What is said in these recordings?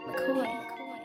McCoy.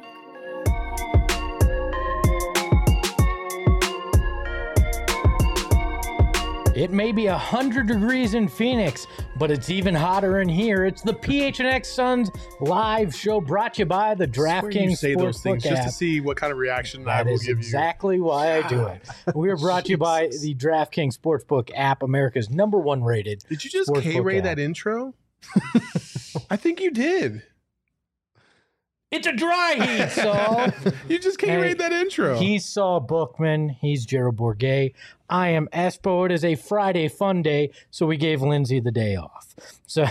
It may be 100 degrees in Phoenix, but it's even hotter in here. It's the PHNX Suns live show brought to you by the DraftKings say those things Sportsbook just app. to see what kind of reaction I That will is give you. exactly why I do it. We are brought to you by the DraftKings Sportsbook app, America's #1 rated. Did you just Sportsbook K-Ray app. that intro? I think you did. It's a dry heat, Saul. You just K-Rayed that intro. He's Saul Bookman. He's Gerald Bourget. I am Espo. It is a Friday fun day, so we gave Lindsay the day off. So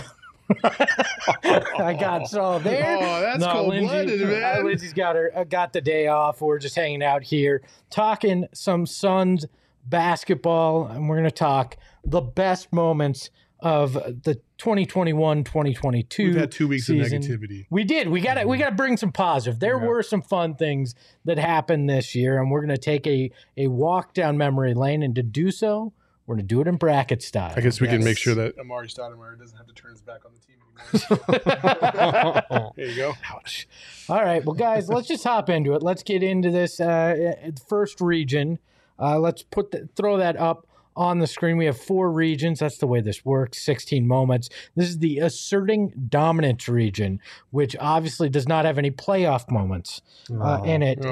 I got Saul there. Oh, that's cold-blooded, man. Lindsay's got the day off. We're just hanging out here talking some Suns basketball, and we're going to talk the best moments of the 2021-2022 We've had 2 weeks season. of negativity. We did. We got to bring some positive. There were some fun things that happened this year, and we're going to take a walk down memory lane. And to do so, we're going to do it in bracket style. I guess we can make sure that Amari Stoudemire doesn't have to turn his back on the team anymore. There you go. Ouch. All right. Well, guys, let's just hop into it. Let's get into this first region. Let's throw that up on the screen. We have 4 regions. That's the way this works. 16 moments. This is the asserting dominance region, which obviously does not have any playoff moments in it.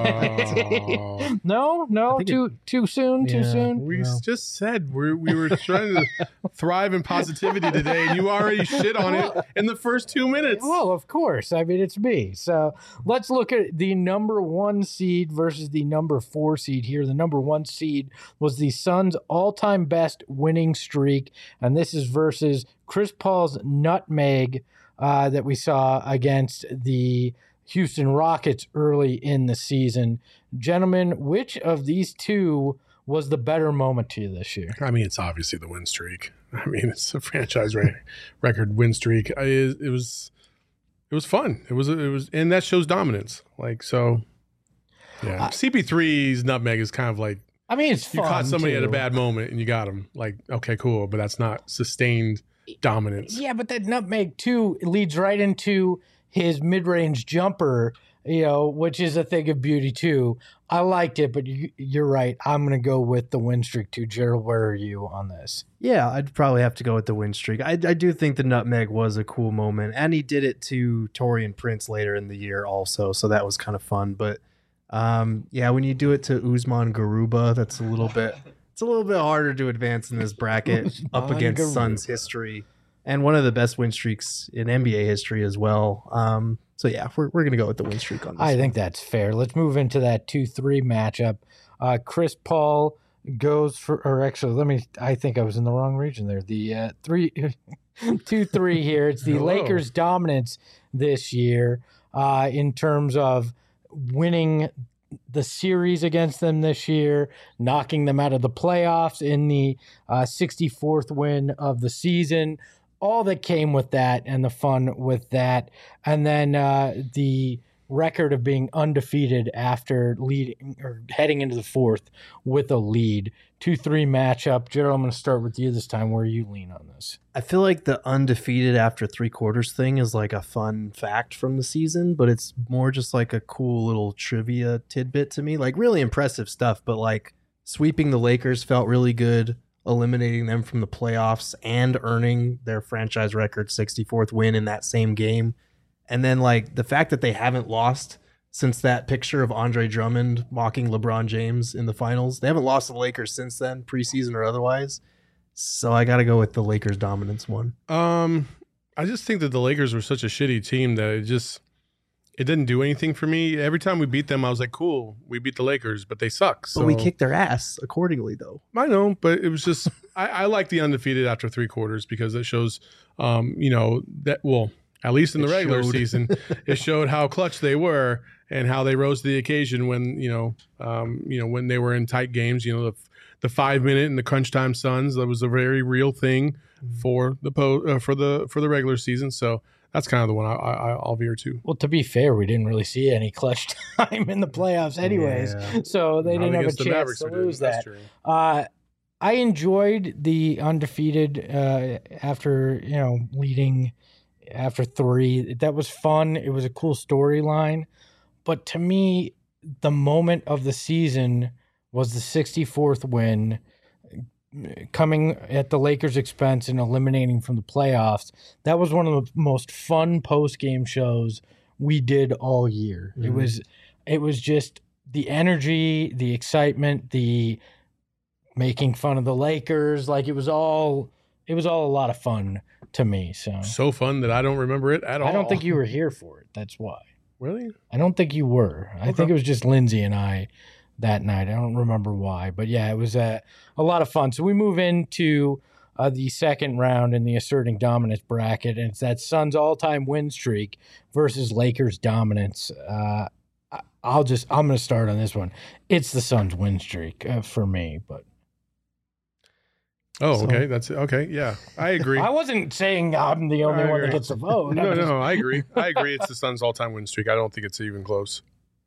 No, too soon. We just said we were trying to thrive in positivity today, and you already shit on it in the first 2 minutes. Well, of course. I mean, it's me. So let's look at the number 1 seed versus the number 4 seed here. The number 1 seed was the Suns' all-time best winning streak, and this is versus Chris Paul's nutmeg that we saw against the Houston Rockets early in the season. Gentlemen, which of these two was the better moment to you this year? I mean, it's obviously the win streak. I mean, it's a franchise record win streak. It was fun. It was, and that shows dominance. Like, so, yeah. CP3's nutmeg is kind of like, I mean, it's fun. You caught somebody too. at a bad moment and you got him. Like, okay, cool, but that's not sustained dominance. Yeah, but that nutmeg too leads right into his mid-range jumper, which is a thing of beauty too. I liked it, but you're right. I'm going to go with the win streak too. Gerald, where are you on this? Yeah, I'd probably have to go with the win streak. I do think the nutmeg was a cool moment, and he did it to Taurean Prince later in the year also, so that was kind of fun. But when you do it to Usman Garuba, it's a little bit harder to advance in this bracket up against Garuba. Suns history and one of the best win streaks in NBA history as well. So yeah, we're going to go with the win streak on this. I think that's fair. Let's move into that 2-3 matchup. Chris Paul goes for, or actually, I think I was in the wrong region there. The 2-3 here. It's the Lakers' dominance this year in terms of winning the series against them this year, knocking them out of the playoffs in the 64th win of the season, all that came with that and the fun with that. And then the record of being undefeated after leading or heading into the 4th with a lead. 2-3 matchup. Gerald, I'm going to start with you this time. Where you lean on this? I feel like the undefeated after 3 quarters thing is like a fun fact from the season, but it's more just like a cool little trivia tidbit to me. Like really impressive stuff, but like sweeping the Lakers felt really good, eliminating them from the playoffs and earning their franchise record 64th win in that same game. And then like the fact that they haven't lost since that picture of Andre Drummond mocking LeBron James in the finals. They haven't lost to the Lakers since then, preseason or otherwise. So I got to go with the Lakers dominance one. I just think that the Lakers were such a shitty team that it didn't do anything for me. Every time we beat them, I was like, cool, we beat the Lakers, but they suck. So. But we kicked their ass accordingly, though. I know, but it was just, I like the undefeated after 3 quarters because it shows, at least in the regular season, it showed how clutch they were and how they rose to the occasion when, when they were in tight games, the 5-minute and the crunch time Suns, that was a very real thing for the regular season. So that's kind of the one I'll veer to. Well, to be fair, we didn't really see any clutch time in the playoffs anyways, so they didn't have a chance to lose that. I enjoyed the undefeated after leading after 3. That was fun. It was a cool storyline. But to me, the moment of the season was the 64th win, coming at the Lakers' expense and eliminating from the playoffs. That was one of the most fun post-game shows we did all year. Mm-hmm. It was just the energy, the excitement, the making fun of the Lakers. Like it was all a lot of fun to me. So fun that I don't remember it at all. I don't think you were here for it. That's why. Really? I don't think you were. Okay. I think it was just Lindsay and I that night. I don't remember why, but yeah, it was a lot of fun. So we move into the second round in the asserting dominance bracket, and it's that Suns all-time win streak versus Lakers dominance. I'm going to start on this one. It's the Suns win streak for me, but. Oh, okay. That's okay. Yeah, I agree. I wasn't saying I'm the only one that gets a vote. No, I agree. It's the Suns all-time win streak. I don't think it's even close.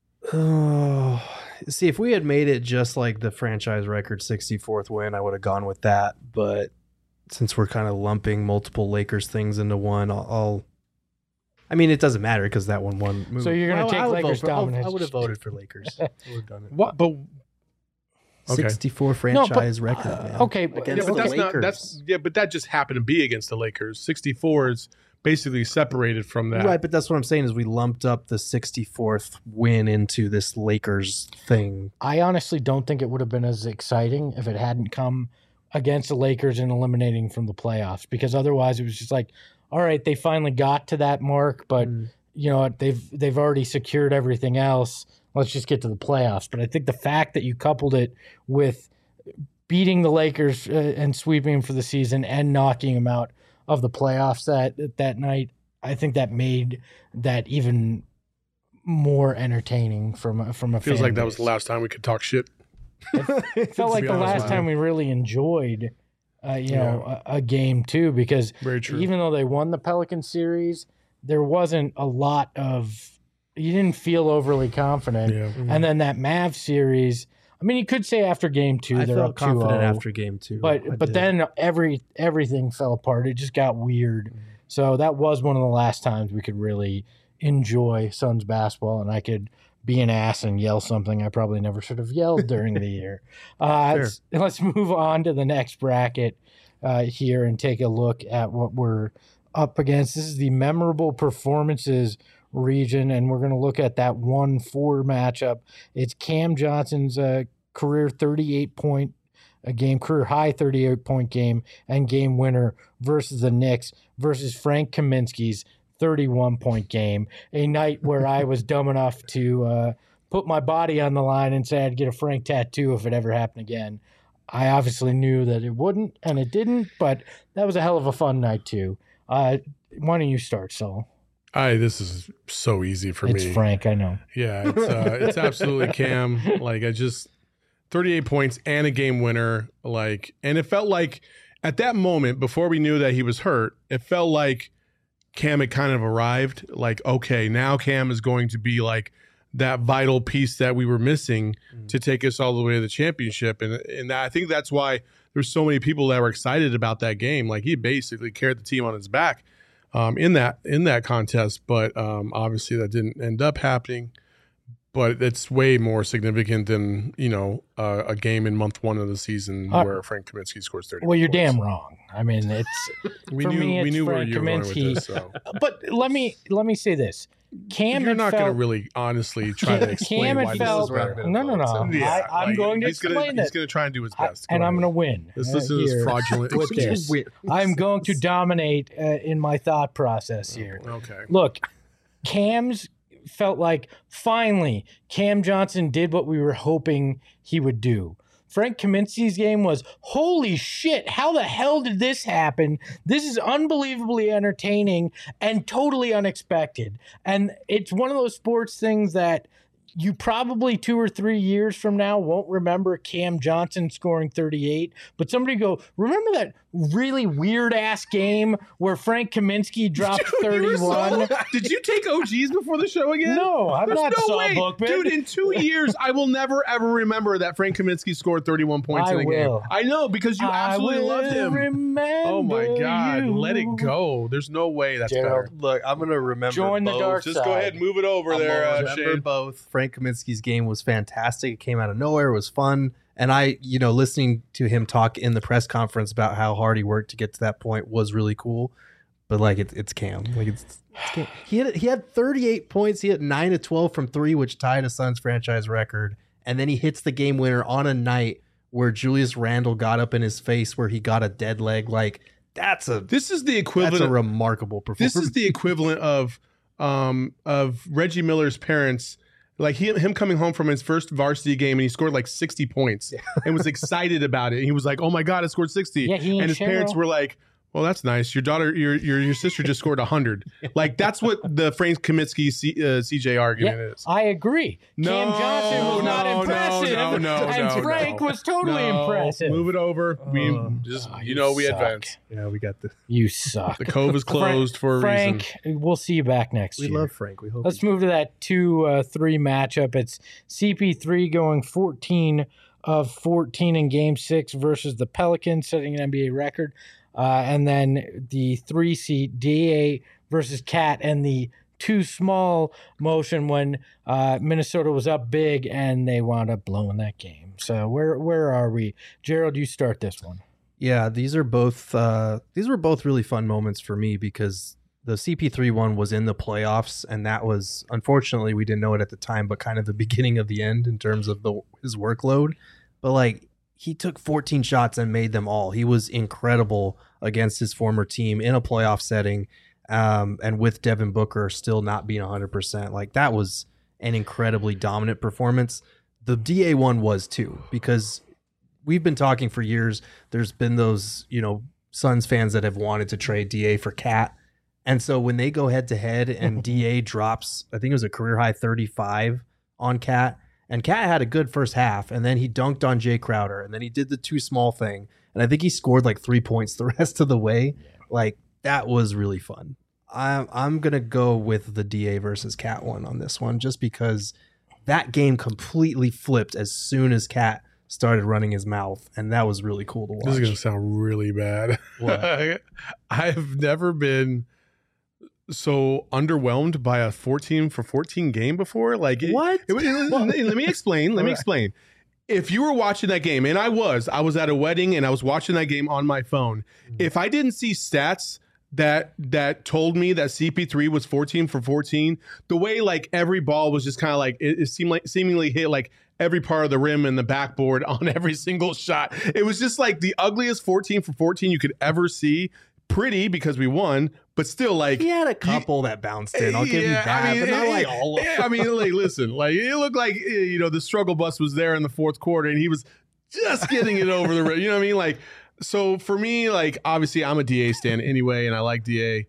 Oh, see, if we had made it just like the franchise record 64th win, I would have gone with that. But since we're kind of lumping multiple Lakers things into one, I mean, it doesn't matter because that one won. So you're going to take Lakers dominance. I would have voted for Lakers. I would have done it. What? But okay. 64 franchise record. Man. Okay, but that just happened to be against the Lakers. 64 is basically separated from that. Right, but that's what I'm saying is we lumped up the 64th win into this Lakers thing. I honestly don't think it would have been as exciting if it hadn't come against the Lakers and eliminating from the playoffs, because otherwise it was just like, all right, they finally got to that mark, but you know, they've already secured everything else. Let's just get to the playoffs. But I think the fact that you coupled it with beating the Lakers and sweeping them for the season and knocking them out of the playoffs that night, I think that made that even more entertaining from a fan Feels like base. That was the last time we could talk shit. It felt like the last time we really enjoyed a game too, because even though they won the Pelican series, there wasn't a lot of, you didn't feel overly confident. Yeah. Mm-hmm. And then that Mavs series, I mean, you could say after game 2, I they're felt up 2-0. confident after game 2. But then everything fell apart. It just got weird. Mm-hmm. So that was one of the last times we could really enjoy Suns basketball, and I could be an ass and yell something I probably never should have yelled during the year. Let's move on to the next bracket here and take a look at what we're up against. This is the memorable performances region, and we're going to look at that 1-4 matchup. It's Cam Johnson's career 38-point game, career high 38-point game and game winner versus the Knicks versus Frank Kaminsky's 31-point game, a night where I was dumb enough to put my body on the line and say I'd get a Frank tattoo if it ever happened again. I obviously knew that it wouldn't, and it didn't, but that was a hell of a fun night too. Why don't you start, Saul? This is so easy for me. It's Frank, I know. Yeah, it's absolutely Cam. 38 points and a game winner. And it felt like at that moment, before we knew that he was hurt, it felt like Cam had kind of arrived. Okay, now Cam is going to be that vital piece that we were missing to take us all the way to the championship. And I think that's why there's so many people that were excited about that game. He basically carried the team on his back in that contest. But obviously that didn't end up happening. But it's way more significant than, a game in month 1 of the season where Frank Kaminsky scores 30 Well, you're points. Damn wrong. I mean, we knew where you were going with this. So. But let me say this. Cam, you're not going to really honestly try to explain why this is better. No. Yeah, I'm going to explain it. He's going to try and do his best. And I'm going to win. This is fraudulent. With this. I'm going to dominate in my thought process here. Okay. Look, Cam's felt like finally Cam Johnson did what we were hoping he would do. Frank Kaminsky's game was, holy shit, how the hell did this happen? This is unbelievably entertaining and totally unexpected. And it's one of those sports things that you probably 2 or 3 years from now won't remember Cam Johnson scoring 38, but somebody go, remember that really weird ass game where Frank Kaminsky dropped 31. Did you take OGs before the show again? No, I'm There's not no way. Bookman. Dude, in 2 years, I will never, ever remember that Frank Kaminsky scored 31 points in a game. I know, because you absolutely loved him. Oh, my God. You. Let it go. There's no way that's Gerald, better. Look, I'm going to remember Join both. the dark Just go ahead and move it over I'm there, gonna remember Shane. both. Frank Kaminsky's game was fantastic. It came out of nowhere. It was fun. And I, listening to him talk in the press conference about how hard he worked to get to that point was really cool. But like it's Cam. Like it's Cam. He had 38 points. He hit 9 of 12 from 3, which tied a Suns franchise record. And then he hits the game winner on a night where Julius Randle got up in his face, where he got a dead leg. Like This is the equivalent. That's a remarkable performance. This is the equivalent of Reggie Miller's parents. Like him coming home from his first varsity game and he scored like 60 points and was excited about it. He was like, "Oh my God, I scored 60!" Yeah, and his parents were like, "Well, that's nice. Your daughter, your sister just scored 100." Like that's what the Frank Kaminsky CJ argument is. I agree. Cam Johnson was not impressive, and Frank was totally impressive. Move it over. We suck. advance. Yeah, we got the. You suck. The Cove is closed for a reason. Frank, we'll see you back next year. We love Frank. We hope. Let's move to that 2-3 matchup. It's CP3 going 14 of 14 in Game 6 versus the Pelicans, setting an NBA record. And then the 3 seed DA versus Cat, and the too small motion when Minnesota was up big and they wound up blowing that game. So where are we? Gerald, you start this one. Yeah, these were both really fun moments for me because the CP3 one was in the playoffs, and that was, unfortunately, we didn't know it at the time, but kind of the beginning of the end in terms of his workload. But like, he took 14 shots and made them all. He was incredible against his former team in a playoff setting, and with Devin Booker still not being 100%. Like, that was an incredibly dominant performance. The DA one was too, because we've been talking for years. There's been those, Suns fans that have wanted to trade DA for Cat. And so when they go head to head and DA drops, I think it was a career high 35 on Cat, and Cat had a good first half, and then he dunked on Jay Crowder, and then he did the too small thing. And I think he scored like 3 points the rest of the way. Yeah. Like, that was really fun. I'm going to go with the DA versus Cat one on this one, just because that game completely flipped as soon as Cat started running his mouth, and that was really cool to watch. This is going to sound really bad. What? I've never been so underwhelmed by a 14 for 14 game before. Like, what? Let me explain. If you were watching that game, and I was at a wedding and I was watching that game on my phone. If I didn't see stats that told me that CP3 was 14 for 14, the way like every ball was just kind of like it seemed like seemingly hit like every part of the rim and the backboard on every single shot. It was just like the ugliest 14 for 14 you could ever see. Pretty because we won, but still, like, he had a couple that bounced in. I'll give you that, but not like all of them. I mean, like, listen, like, it looked like, the struggle bus was there in the fourth quarter and he was just getting it over the rim. You know what I mean? Like, so for me, like, obviously I'm a DA stan anyway, and I like DA.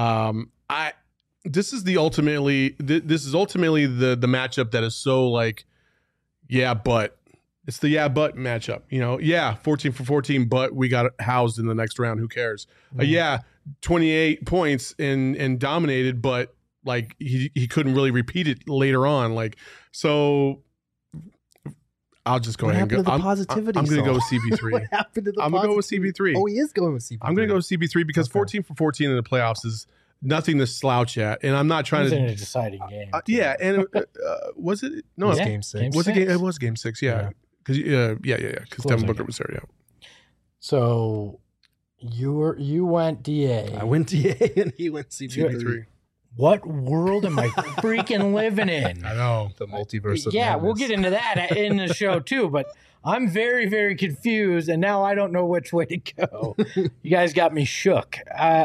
This is ultimately the matchup that is so like, yeah, but it's the but matchup, 14 for 14, but we got housed in the next round. Who cares? 28 points and dominated, but like he couldn't really repeat it later on. Like, so I'll just go ahead and go. I'm going to go with CP3. What happened to the I'm going to go with CP3. Oh, he is going with CP3. I'm going to go with CP3 because 14 for 14 in the playoffs is nothing to slouch at, and I'm not trying to. It was in a deciding game. Yeah, and was it? No, it was Game 6. Was it? It was Game 6. Yeah. Because because Devin Booker was there. Yeah. So you went DA. I went DA, and he went CP3. What world am I freaking living in? I know, the multiverse of madness. We'll We'll get into that in the show too. But I'm very, very confused, and now I don't know which way to go. You guys got me shook.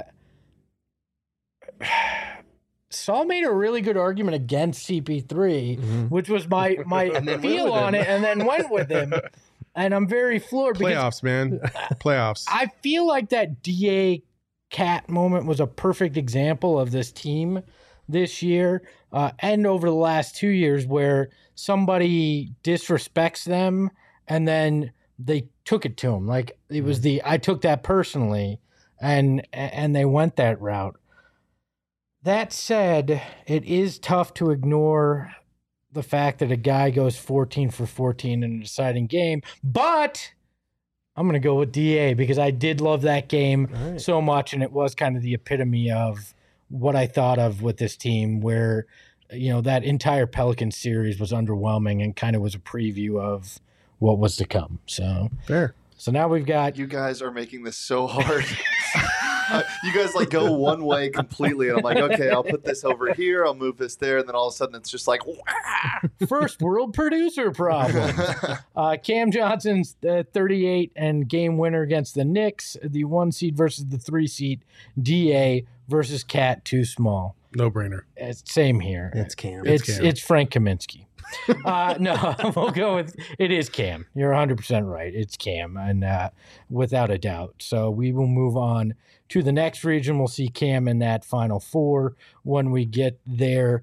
Saul made a really good argument against CP3, which was my feel on it, and then went with him. And I'm very floored. Playoffs, man. Playoffs. I feel like that DA Cat moment was a perfect example of this team this year and over the last 2 years, where somebody disrespects them and then they took it to him. Like it was I took that personally, and they went that route. That said, it is tough to ignore the fact that a guy goes 14 for 14 in a deciding game, but I'm going to go with DA because I did love that game so much, and it was kind of the epitome of what I thought of with this team, where, you know, that entire Pelican series was underwhelming and kind of was a preview of what was to come. So fair. So now we've got... You guys are making this so hard. You guys like go one way completely, and I'm like, okay, I'll put this over here, I'll move this there, and then all of a sudden it's just like, wah! First world producer problem. Cam Johnson's 38 and game winner against the Knicks, the 1 seed versus the 3 seed. DA versus Cat, too small. No brainer. Same here. It's Cam. It's Frank Kaminsky. No, we'll go with it is Cam. You're 100% right. It's Cam, and without a doubt. So we will move on to the next region. We'll see Cam in that Final Four when we get there.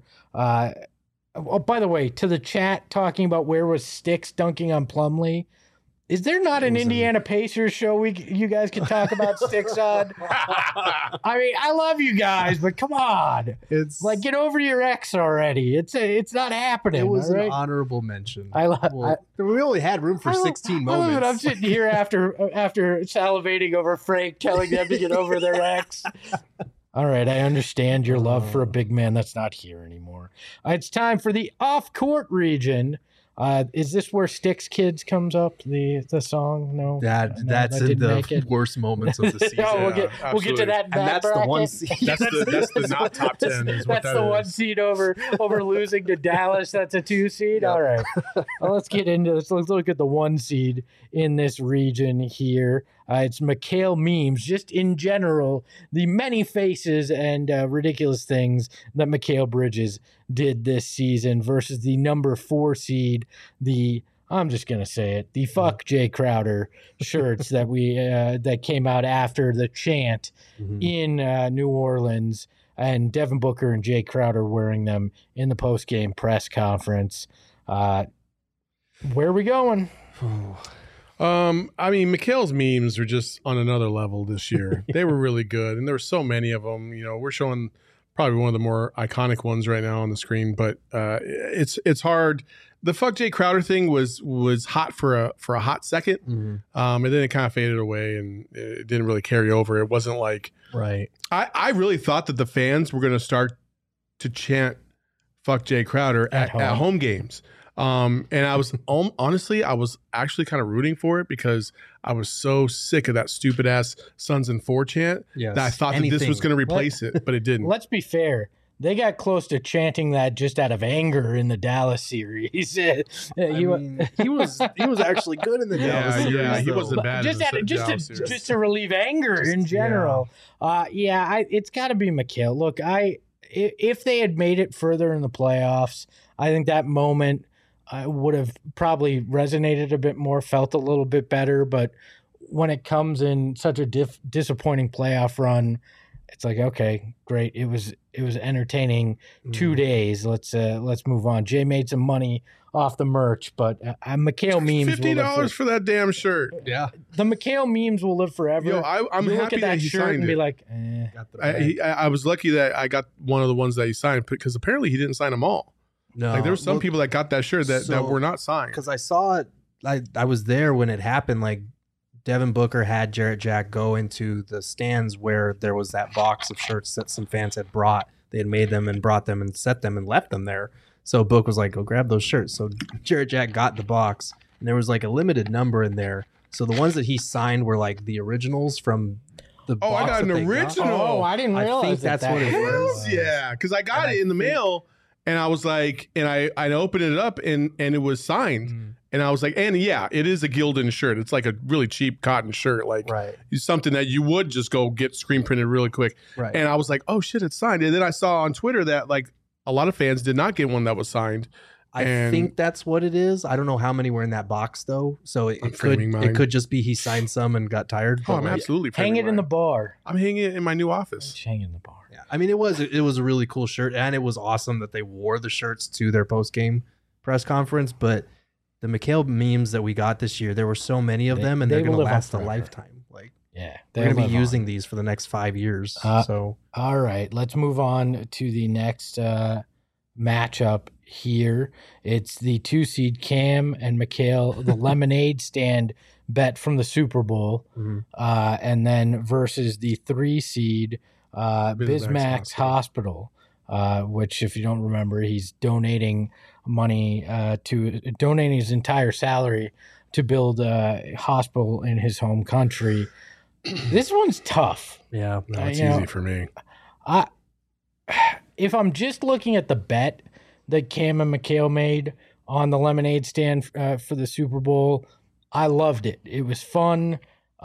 Oh, by the way, to the chat talking about where was Sticks dunking on Plumlee. Is there not an Indiana Pacers show you guys can talk about Sticks on? I mean, I love you guys, but come on. It's like, get over your ex already. It's not happening. It was right? an honorable mention. We only had room for 16 moments. I'm sitting here after salivating over Frank telling them to get over their ex. All right, I understand your love for a big man that's not here anymore. It's time for the off-court region. Is this where Sticks Kids comes up? The song? No, that's in the worst moments of the season. We'll get to that. And that's bracket. the 1 seed. That's the not top 10. That's the 1 seed over losing to Dallas. That's a 2 seed. Yep. All right, well, let's get into this. Let's look at the 1 seed in this region here. It's McHale memes, just in general, the many faces and ridiculous things that Mikal Bridges did this season versus the number 4 seed, I'm just going to say it, the fuck Jay Crowder shirts that came out after the chant in New Orleans, and Devin Booker and Jay Crowder wearing them in the post-game press conference. Where are we going? I mean, Mikal's memes are just on another level this year. They were really good, and there were so many of them. You know, we're showing probably one of the more iconic ones right now on the screen, but it's hard. The fuck Jay Crowder thing was hot for a hot second, and then it kind of faded away, and it didn't really carry over. It wasn't like right. I really thought that the fans were going to start to chant "fuck Jay Crowder" at home games. And I was honestly, I was actually kind of rooting for it because I was so sick of that stupid ass Suns and 4 chant that I thought that this was going to replace it, but it didn't. Let's be fair. They got close to chanting that just out of anger in the Dallas series. He was actually good in the Dallas series. Yeah, he wasn't bad. Just to relieve anger in general. It's got to be Mikal. Look, if they had made it further in the playoffs, I think that moment would have probably resonated a bit more, felt a little bit better. But when it comes in such a disappointing playoff run, it's like, okay, great. It was entertaining 2 days. Let's move on. Jay made some money off the merch, but Mikal memes $50 for that damn shirt. Yeah, the Mikal memes will live forever. Yo, I'm you happy look at that he shirt signed and it. be like, I was lucky that I got one of the ones that he signed because apparently he didn't sign them all. No, like there were some people that got that shirt that were not signed. Because I saw it, I was there when it happened. Like Devin Booker had Jarrett Jack go into the stands where there was that box of shirts that some fans had brought. They had made them and brought them and set them and left them there. So Book was like, go grab those shirts. So Jarrett Jack got the box, and there was like a limited number in there. So the ones that he signed were like the originals from the box. I got an original. Oh, I didn't realize I think that's what it was. Yeah, because I got it in the mail, and I was like, and I opened it up, and it was signed. And I was like, and yeah, it is a Gildan shirt. It's like a really cheap cotton shirt, like something that you would just go get screen printed really quick. Right. And I was like, oh shit, it's signed. And then I saw on Twitter that like a lot of fans did not get one that was signed. I think that's what it is. I don't know how many were in that box though. So it could just be he signed some and got tired. Oh, I'm absolutely hang it in the bar. I'm hanging it in my new office. Hang it in the bar. Yeah. I mean, it was a really cool shirt, and it was awesome that they wore the shirts to their post game press conference, but the McHale memes that we got this year, there were so many of them, and they they're going to will live on last a forever. lifetime. Like, Yeah, we're going to be using these for the next 5 years. So All right, let's move on to the next matchup here. It's the 2 seed Cam and McHale, the lemonade stand bet from the Super Bowl, and then versus the 3 seed Bismack's Hospital, which, if you don't remember, he's donating money donating his entire salary to build a hospital in his home country. This one's tough. yeah, No, it's easy for me. If I'm just looking at the bet that Cam and McHale made on the lemonade stand for the Super Bowl, I loved it. It was fun.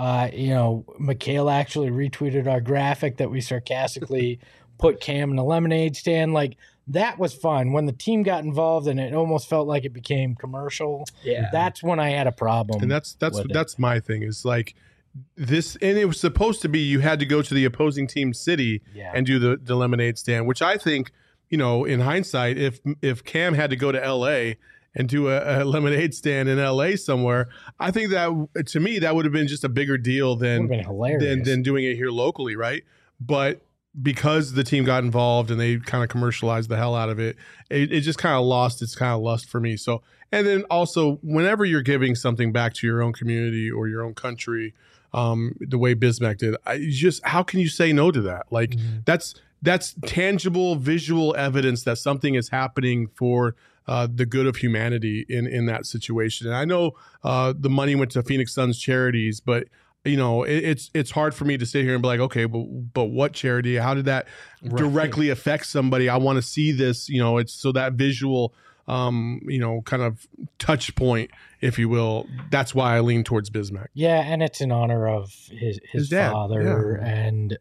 McHale actually retweeted our graphic that we sarcastically put Cam in a lemonade stand. Like, that was fun. When the team got involved and it almost felt like it became commercial, that's when I had a problem. And that's with it. that's my thing, is like this, and it was supposed to be you had to go to the opposing team city and do the lemonade stand, which I think, in hindsight, if Cam had to go to LA and do a lemonade stand in LA somewhere, I think that, to me, that would have been just a bigger deal than Would've been hilarious. than doing it here locally, right? But because the team got involved and they kind of commercialized the hell out of it, it just kind of lost its kind of lust for me. So, and then also, whenever you're giving something back to your own community or your own country, the way Bismack did, how can you say no to that? Like, that's tangible, visual evidence that something is happening for the good of humanity in that situation. And I know the money went to Phoenix Suns charities, but it's hard for me to sit here and be like, okay, but what charity? How did that directly affect somebody? I want to see this. It's so that visual, kind of touch point, if you will. That's why I lean towards Bismack. Yeah, and it's in honor of his dad, father, and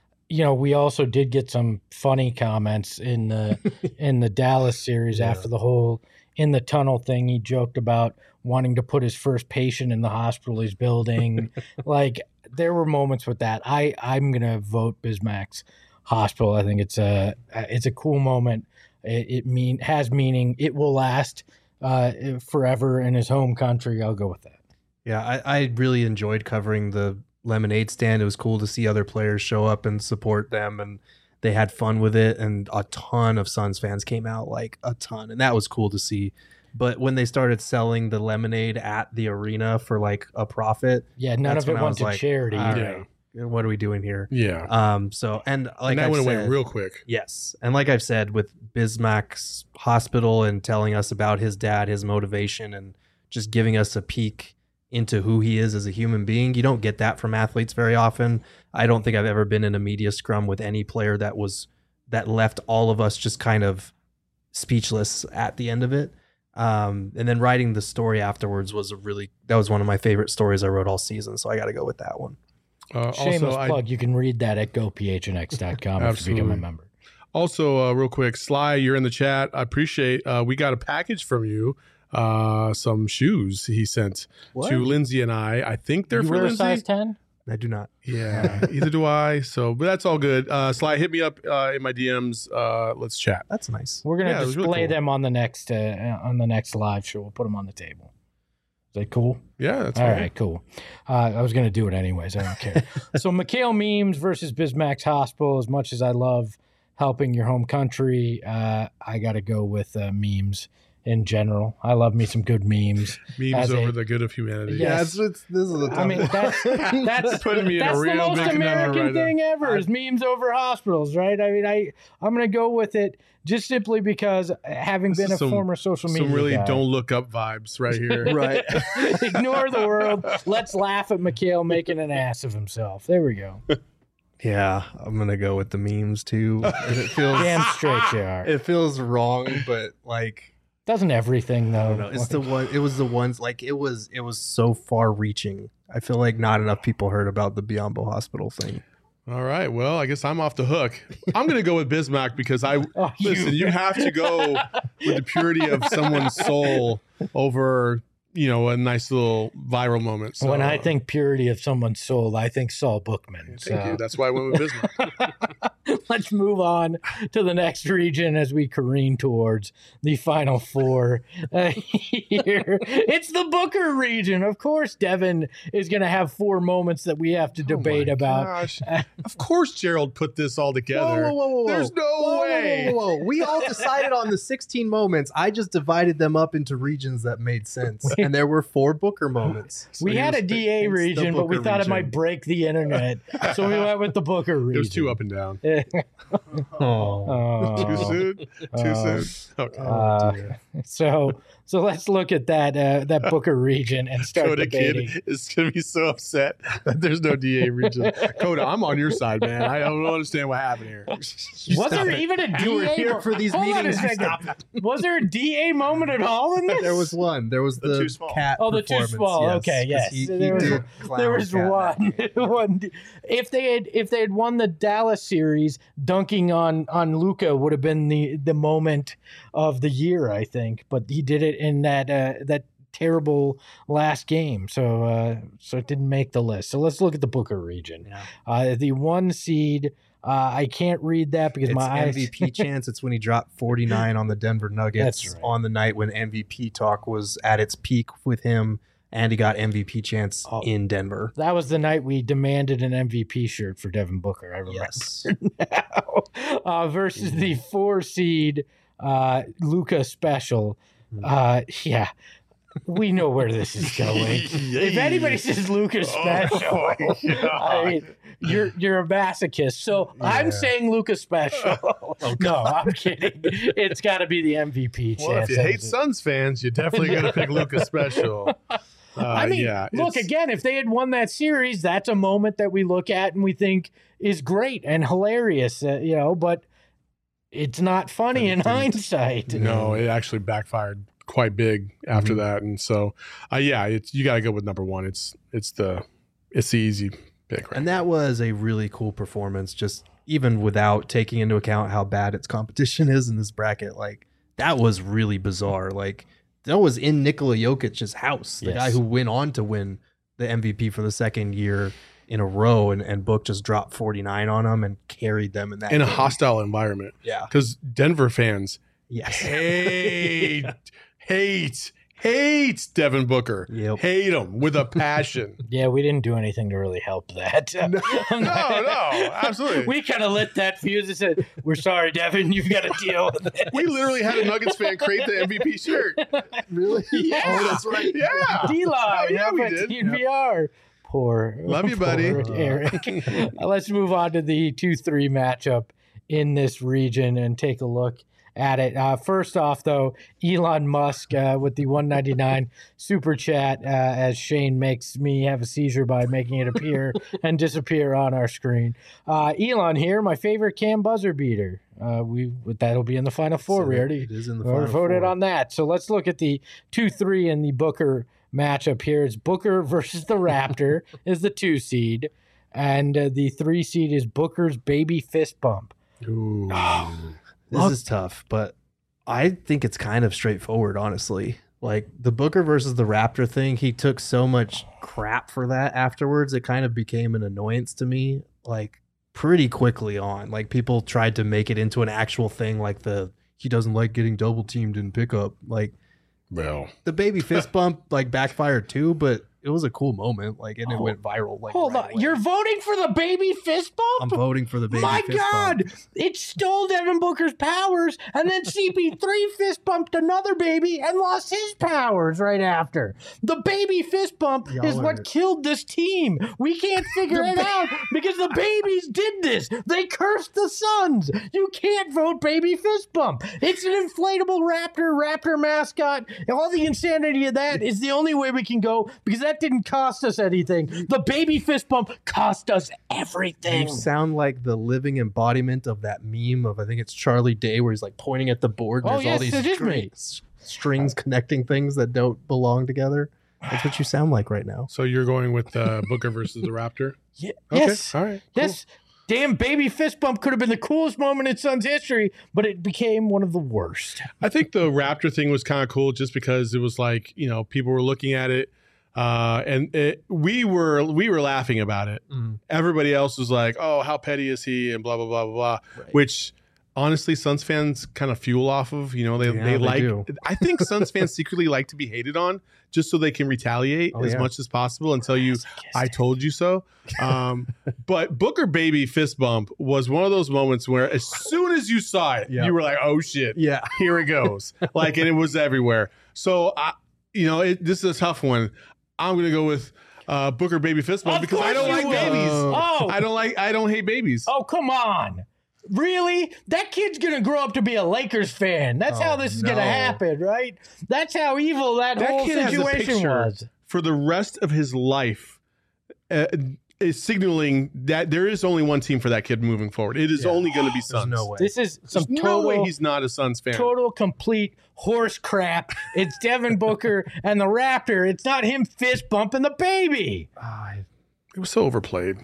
we also did get some funny comments in the Dallas series after the whole in the tunnel thing. He joked about wanting to put his first patient in the hospital he's building. Like, there were moments with that. I'm gonna vote Bismack's Hospital. I think it's a cool moment. It has meaning. It will last forever in his home country. I'll go with that. Yeah, I really enjoyed covering the lemonade stand. It was cool to see other players show up and support them, and they had fun with it, and a ton of Suns fans came out, like a ton, and that was cool to see. But when they started selling the lemonade at the arena for like a profit, none of it went to charity. All right, what are we doing here? Yeah. So, and like that I've went said, away real quick. Yes. And like I've said, with Bismack's Hospital and telling us about his dad, his motivation, and just giving us a peek into who he is as a human being, you don't get that from athletes very often. I don't think I've ever been in a media scrum with any player that left all of us just kind of speechless at the end of it. And then writing the story afterwards that was one of my favorite stories I wrote all season. So I got to go with that one. Shameless plug. You can read that at gophnx.com if you become a member. Also, real quick, Sly, you're in the chat. I appreciate. We got a package from you. Some shoes he sent to Lindsay and I. I think they're for Lindsay. Size 10? I do not. Yeah, either do I. So, but that's all good. Sly, hit me up in my DMs. Let's chat. That's nice. We're gonna display really cool. them on the next live show. We'll put them on the table. Is that cool? Yeah, that's all fine. right. Cool. I was gonna do it anyways. I don't care. So McHale memes versus Bismack's Hospital. As much as I love helping your home country, I got to go with memes. In general, I love me some good memes. Memes over the good of humanity. Yes. this is the I mean, that's putting me in a real the most big American right thing ever is memes over hospitals, right? I mean, I'm going to go with it just simply because having been a former social media some really guy, don't look up vibes right here. right. Ignore the world. Let's laugh at McHale making an ass of himself. There we go. Yeah, I'm gonna go with the memes too. And it feels Damn straight you are. it feels wrong, but like. Doesn't everything though? I don't know. It's the one. It was the ones like it was so far reaching. I feel like not enough people heard about the Biombo Hospital thing. All right. Well, I guess I'm off the hook. I'm going to go with Bismack because you have to go with the purity of someone's soul over, a nice little viral moment. So, when I think purity of someone's soul, I think Saul Bookman. thank you. That's why I went with Bismack. let's move on to the next region as we careen towards the final four here. It's the Booker region. Of course, Devin is going to have 4 moments that we have to debate about. Gosh. Of course, Gerald put this all together. Whoa. There's no way. Whoa. We all decided on the 16 moments. I just divided them up into regions that made sense. And there were 4 Booker moments. We had a DA region, but we thought it might break the internet. So we went with the Booker region. It was too up and down. Too soon? Too soon? Okay. So let's look at that Booker region and start Coda debating. Kid is going to be so upset that there's no DA region. Coda, I'm on your side, man. I don't understand what happened here. Was there even a DA? You were here for these Hold on a meetings. second. Was there a DA moment at all in this? There was one. There was the too small. cat. Oh, the too performance, small. yes, Okay, 'cause yes. He There was- did clown There was cat one. that night. one. If they had won the Dallas series, dunking on Luka would have been the moment of the year, I think. But he did it in that terrible last game, so it didn't make the list. So let's look at the Booker region. Yeah. The 1 seed. I can't read that because It's my eyes. MVP chance. It's when he dropped 49 on the Denver Nuggets That's right. on the night when MVP talk was at its peak with him, and he got MVP chance in Denver. That was the night we demanded an MVP shirt for Devin Booker. I remember Yes. now. Versus the 4 seed Luka Special. Yeah. We know where this is going. If anybody says Luka Special, I mean, you're a masochist. So I'm saying Luka Special. No, I'm kidding. It's got to be the MVP chance. Well, if you hate Suns fans, you're definitely going to pick Luka Special. I mean, look, again, if they had won that series, that's a moment that we look at and we think is great and hilarious, but it's not funny in hindsight. No, it actually backfired quite big after that, and so you got to go with number 1. It's the easy pick, right? And that was a really cool performance, just even without taking into account how bad its competition is in this bracket. Like, that was really bizarre. Like, that was in Nikola Jokic's house, the guy who went on to win the MVP for the 2nd year in a row, and Book just dropped 49 on him and carried them in that in a game. hostile environment. Yeah. Because Denver fans Yes. hates Devin Booker. Yep. Hate him with a passion. Yeah, we didn't do anything to really help that. No, absolutely. We kind of lit that fuse and said, "We're sorry, Devin. You've got to deal with it." We literally had a Nuggets fan create the MVP shirt. Really? Yeah. Oh, that's right. Yeah. D-Line. Oh, yeah, we did. TVR. Poor. Love you, buddy. poor Eric. Let's move on to the 2-3 matchup in this region and take a look at it. First off, though, Elon Musk with the 199 super chat as Shane makes me have a seizure by making it appear and disappear on our screen. Elon here, my favorite Cam buzzer beater. That'll be in the final 4. So we already it is in the voted final 4. on that. So let's look at the 2-3 in the Booker matchup here. It's Booker versus the Raptor is the 2 seed, and the 3 seed is Booker's baby fist bump. Ooh. This is tough, but I think it's kind of straightforward, honestly. Like, the Booker versus the Raptor thing, he took so much crap for that afterwards. It kind of became an annoyance to me, like, pretty quickly on. Like, people tried to make it into an actual thing, like he doesn't like getting double teamed in pickup. Like, Well, the baby fist bump, like, backfired too, but it was a cool moment. Like, and it went viral. Like, Hold right on, away. you're voting for the baby fist bump? I'm voting for the baby My fist God, bump. it stole Devin Booker's powers, and then CP3 fist bumped another baby and lost his powers right after. The baby fist bump Y'all is are- what killed this team. We can't figure it out because the babies did this. They cursed the Suns. You can't vote baby fist bump. It's an inflatable raptor mascot. All the insanity of that is the only way we can go because that didn't cost us anything. The baby fist bump cost us everything. You sound like the living embodiment of that meme of, I think it's Charlie Day, where he's like pointing at the board. And Oh, there's all yes, these it is me. strings connecting things that don't belong together. That's what you sound like right now. so you're going with Booker versus the Raptor? Yeah, Okay. Yes. All right. Cool. This damn baby fist bump could have been the coolest moment in Suns history, but it became one of the worst. I think the Raptor thing was kind of cool just because it was like, people were looking at it. we were laughing about it. Everybody else was like, "Oh, how petty is he?" and blah blah blah blah blah. Right. Which honestly, Suns fans kind of fuel off of. You know, they like. do. I think Suns fans secretly like to be hated on, just so they can retaliate as much as possible and tell you, "I told you so." But Booker baby fist bump was one of those moments where, as soon as you saw it, you were like, "Oh shit, Yeah. here it goes!" Like, and it was everywhere. So, this is a tough one. I'm gonna go with Booker baby fist bump because I don't like babies. Oh. I don't hate babies. Oh, come on. Really? That kid's going to grow up to be a Lakers fan. That's how this is going to happen, right? That's how evil that whole kid has a situation picture was. for the rest of his life. Is signaling that there is only one team for that kid moving forward. It is only going to be Suns. There's no way. This is some There's total, no way he's not a Suns fan. total complete horse crap. It's Devin Booker and the Raptor. It's not him fist bumping the baby. It was so overplayed.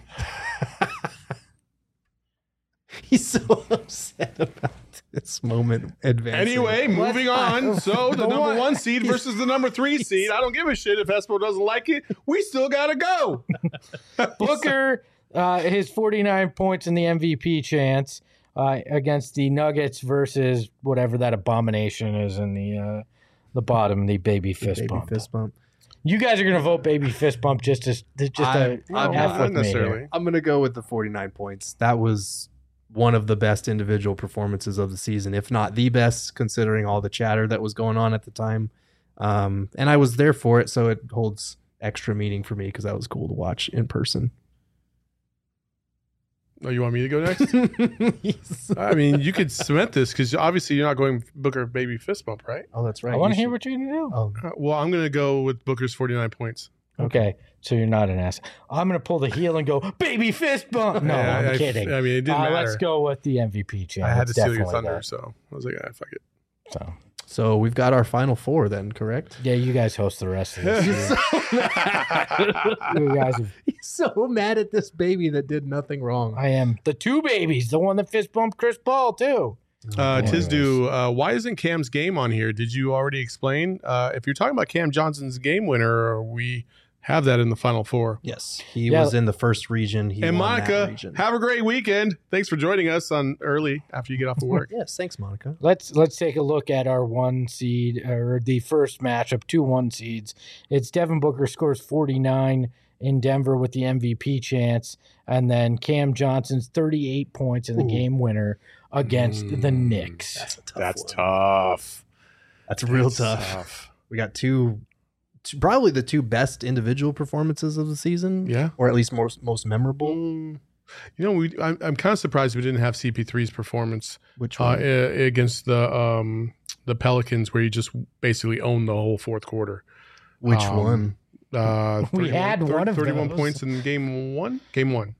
He's so upset about this moment advancing. Anyway, moving on. So the number 1 seed versus the number 3 seed. I don't give a shit if Espo doesn't like it. We still got to go. Booker, his 49 points in the MVP chance against the Nuggets versus whatever that abomination is in the bottom, the baby fist bump. Fist bump. You guys are going to vote baby fist bump just to I'm F with me here. I'm going to go with the 49 points. That was one of the best individual performances of the season, if not the best, considering all the chatter that was going on at the time. And I was there for it, so it holds extra meaning for me because that was cool to watch in person. Oh, you want me to go next? I mean, you could cement this because obviously you're not going Booker baby fist bump, right? Oh, that's right. I want to hear what you're going to do. Oh, Well, I'm going to go with Booker's 49 points. Okay, so you're not an ass. I'm going to pull the heel and go, baby fist bump. No, Yeah, I'm kidding. I mean, it didn't matter. Let's go with the MVP chance. I had to It's steal your definitely thunder, that. so I was like, fuck it. so we've got our final 4 then, correct? Yeah, you guys host the rest of this. You guys have, He's so mad at this baby that did nothing wrong. I am the 2 babies, the one that fist bumped Chris Paul, too. Tisdu, why isn't Cam's game on here? Did you already explain? If you're talking about Cam Johnson's game winner, we have that in the final 4. Yes, he was in the first region. He And won that Monica, region. have a great weekend. Thanks for joining us on early after you get off of work. Yes, thanks, Monica. Let's take a look at our 1 seed, or the first matchup, 2 1 seeds. It's Devin Booker scores 49 in Denver with the MVP chance, and then Cam Johnson's 38 points in the game winner against the Knicks. That's tough. That's real tough. We got probably the 2 best individual performances of the season. Yeah. Or at least most memorable. You know, I'm kind of surprised we didn't have CP3's performance Which one? against the Pelicans, where he just basically owned the whole fourth quarter. Which one? We had one of 31 those. points in game 1. Game 1.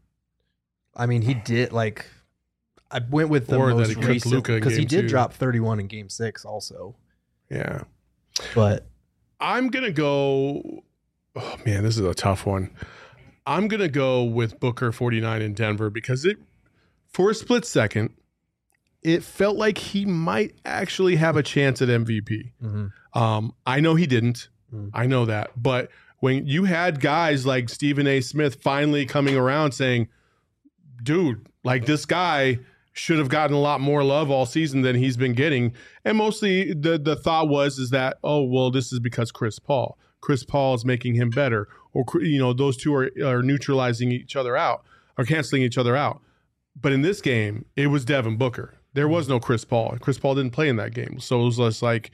I mean, he did I went with the Or that most he kept recent Luka in because he game did 2. drop 31 in game 6 also. Yeah. But I'm going to go. Oh, man, this is a tough one. I'm going to go with Booker 49 in Denver because for a split second, it felt like he might actually have a chance at MVP. I know he didn't. I know that. But when you had guys like Stephen A. Smith finally coming around saying, dude, like this guy should have gotten a lot more love all season than he's been getting. And mostly the thought is that, oh, well, this is because Chris Paul is making him better. Or, those two are neutralizing each other out or canceling each other out. But in this game, it was Devin Booker. There was no Chris Paul. Chris Paul didn't play in that game. So it was just like,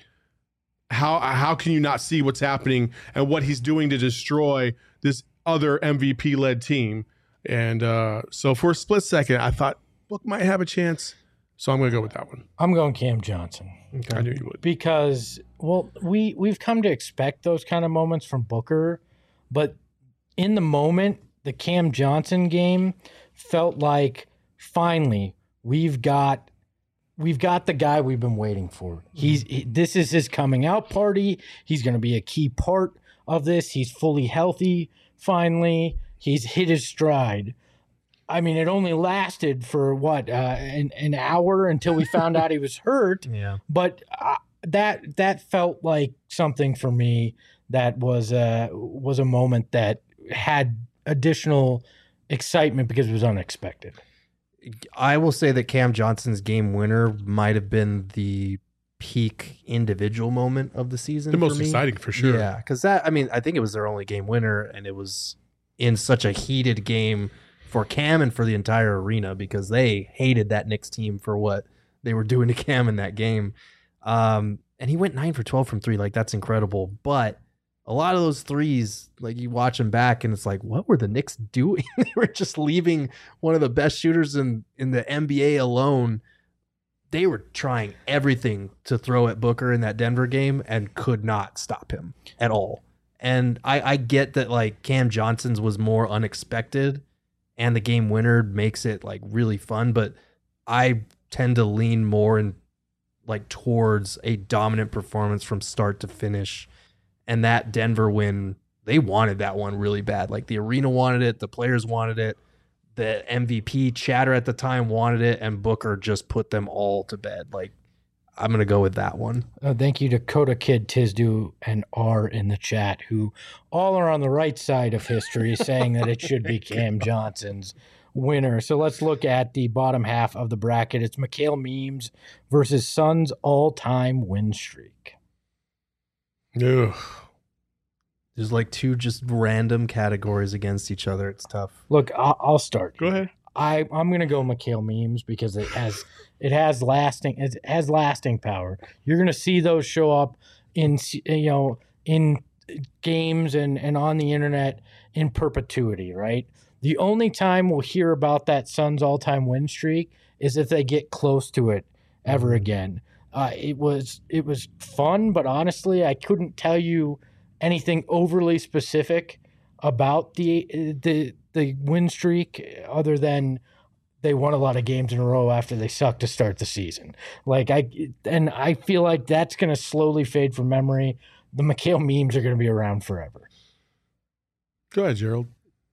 how can you not see what's happening and what he's doing to destroy this other MVP-led team? And so for a split second, I thought Book might have a chance. So I'm going to go with that one. I'm going Cam Johnson. I knew you would. Because, well, we've come to expect those kind of moments from Booker, but in the moment, the Cam Johnson game felt like finally we've got the guy we've been waiting for. This is his coming out party. He's going to be a key part of this. He's fully healthy. Finally, he's hit his stride. I mean, it only lasted for an hour until we found out he was hurt. Yeah. But that felt like something for me that was a moment that had additional excitement because it was unexpected. I will say that Cam Johnson's game winner might have been the peak individual moment of the season. The for most me. exciting for sure. Yeah, because I think it was their only game winner, and it was in such a heated game for Cam and for the entire arena because they hated that Knicks team for what they were doing to Cam in that game. And he went 9 for 12 from 3. Like, that's incredible. But a lot of those threes, like, you watch them back and it's like, what were the Knicks doing? They were just leaving one of the best shooters in the NBA alone. They were trying everything to throw at Booker in that Denver game and could not stop him at all. And I get that, like, Cam Johnson's was more unexpected and the game winner makes it, like, really fun, but I tend to lean more in, like, towards a dominant performance from start to finish. And that Denver win, they wanted that one really bad. Like, the arena wanted it, the players wanted it, the MVP chatter at the time wanted it, and Booker just put them all to bed. Like, I'm going to go with that one. Thank you to Coda Kid, Tizdu, and R in the chat, who all are on the right side of history, saying that it should be Cam Johnson's winner. So let's look at the bottom half of the bracket. It's Mikhail Memes versus Suns' all-time win streak. Ugh. There's like two just random categories against each other. It's tough. Look, I'll start. Go ahead. I'm gonna go Mikhail Memes because it has lasting power. You're gonna see those show up in games and on the internet in perpetuity, right? The only time we'll hear about that Suns all-time win streak is if they get close to it ever again. It was fun, but honestly, I couldn't tell you anything overly specific about the win streak other than they won a lot of games in a row after they sucked to start the season. I feel like that's going to slowly fade from memory. The Mikhail Memes are going to be around forever. Go ahead, Gerald.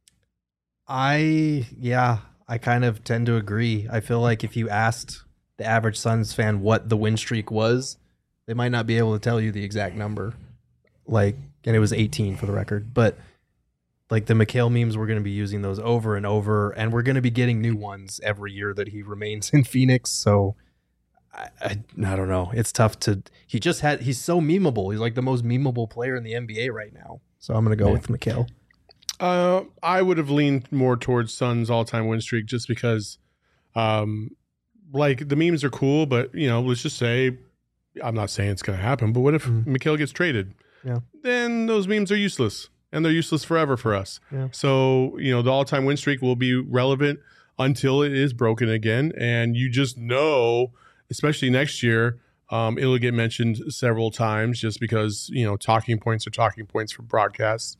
I kind of tend to agree. I feel like if you asked the average Suns fan what the win streak was, they might not be able to tell you the exact number. Like, and it was 18 for the record, but like the Mikhail Memes, we're going to be using those over and over, and we're going to be getting new ones every year that he remains in Phoenix. So I don't know. It's tough to, he's so memeable. He's like the most memeable player in the NBA right now. So I'm going to go with Mikhail. I would have leaned more towards Suns all-time win streak just because, like, the memes are cool, but, let's just say, I'm not saying it's going to happen, but what if Mikhail gets traded? Yeah. Then those memes are useless, and they're useless forever for us. Yeah. So, the all-time win streak will be relevant until it is broken again, and you just know, especially next year, it'll get mentioned several times just because, talking points are talking points for broadcasts.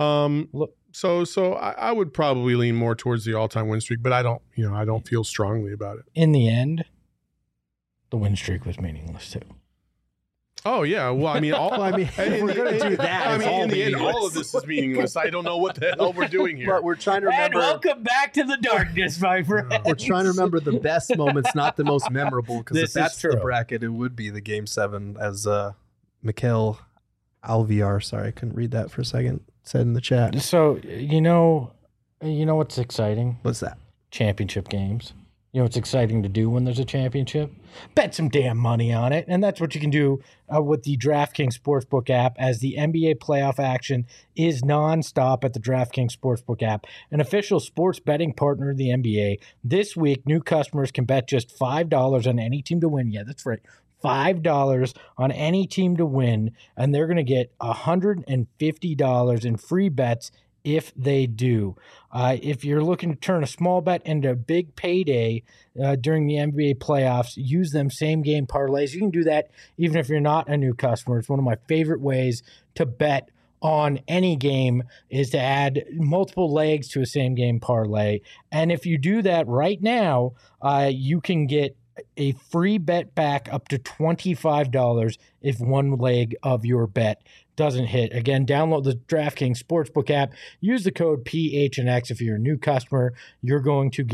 So I would probably lean more towards the all-time win streak, but I don't feel strongly about it. In the end, the win streak was meaningless too. Oh yeah, well I mean, if we're gonna do that, in the end, all of this is meaningless. I don't know what the hell we're doing here. But we're trying to remember. And welcome back to the darkness, my friend. We're trying to remember the best moments, not the most memorable. Because if that's the bracket, it would be the Game 7, as Mikhail Alviar. Sorry, I couldn't read that for a second. Said in the chat. So you know what's exciting? What's that? Championship games. You know what's exciting to do when there's a championship? Bet some damn money on it. And that's what you can do with the DraftKings Sportsbook app, as the NBA playoff action is nonstop at the DraftKings Sportsbook app, an official sports betting partner of the NBA. This week, new customers can bet just $5 on any team to win. Yeah, that's right. $5 on any team to win, and they're going to get $150 in free bets if they do. If you're looking to turn a small bet into a big payday during the NBA playoffs, use them same-game parlays. You can do that even if you're not a new customer. It's one of my favorite ways to bet on any game, is to add multiple legs to a same-game parlay. And if you do that right now, you can get a free bet back up to $25 if one leg of your bet doesn't hit. Again, download the DraftKings Sportsbook app. Use the code PHNX. If you're a new customer, you're going to get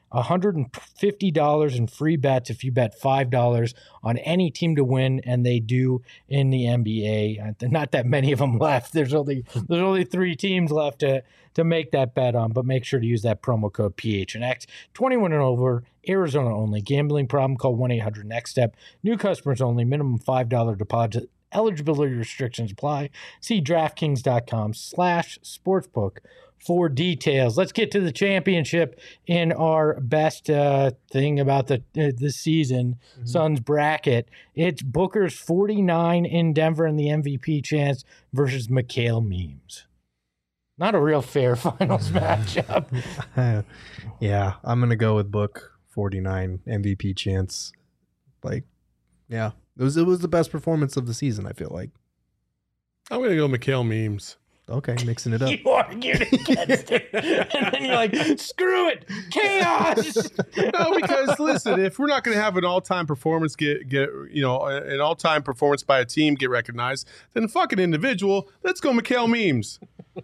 $150 in free bets if you bet $5 on any team to win, and they do in the NBA. Not that many of them left. There's only 3 teams left to make that bet on, but make sure to use that promo code PHNX. 21 and over, Arizona only. Gambling problem, call 1-800-NEXT-STEP. New customers only, minimum $5 deposit. Eligibility restrictions apply. See DraftKings.com/sportsbook for details. Let's get to the championship in our best thing about the season, Suns bracket. It's Booker's 49 in Denver and the MVP chance versus Mikal Memes. Not a real fair finals matchup. Yeah, I'm going to go with Book 49 MVP chance. Like, yeah, it was the best performance of the season, I feel like. I'm going to go Mikal Memes. Okay, mixing it up. You argued against it. And then you're like, screw it. Chaos. No, because listen, if we're not going to have an all-time performance an all-time performance by a team get recognized, then fuck an individual. Let's go Mikal Memes.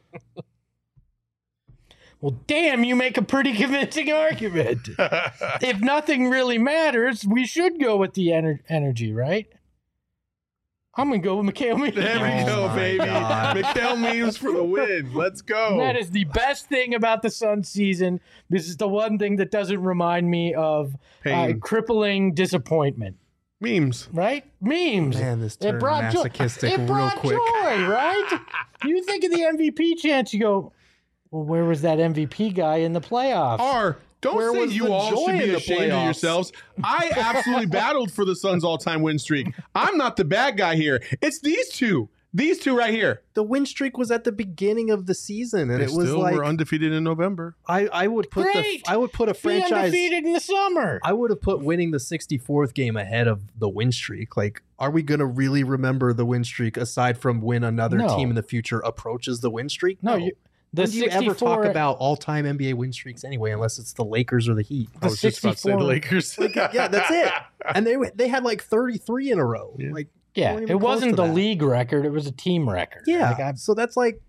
Well, damn, you make a pretty convincing argument. If nothing really matters, we should go with the energy, right? I'm going to go with Mikal Memes. There we go, baby. Mikal Memes for the win. Let's go. That is the best thing about the Suns season. This is the one thing that doesn't remind me of crippling disappointment. Memes. Right? Memes. Man, this turned masochistic it brought real quick. joy, right? You think of the MVP chance, you go, well, where was that MVP guy in the playoffs? Don't Where say was you the all joy should be in the ashamed of playoffs? yourselves. I absolutely battled for the Suns' all-time win streak. I'm not the bad guy here. It's these two. These two right here. The win streak was at the beginning of the season, and They it was still like were undefeated in November. I would put Great. I would put a Be franchise. undefeated in the summer. I would have put winning the 64th game ahead of the win streak. Like, are we going to really remember the win streak aside from when another No. team in the future approaches the win streak? No, the When do you ever 64 talk about all-time NBA win streaks anyway, unless it's the Lakers or the Heat? I was just about to say the 64 Lakers. Yeah, that's it. And they had like 33 in a row. Yeah. Like, Yeah, weren't it even close wasn't to the that. league record. It was a team record. Yeah, Like, so that's like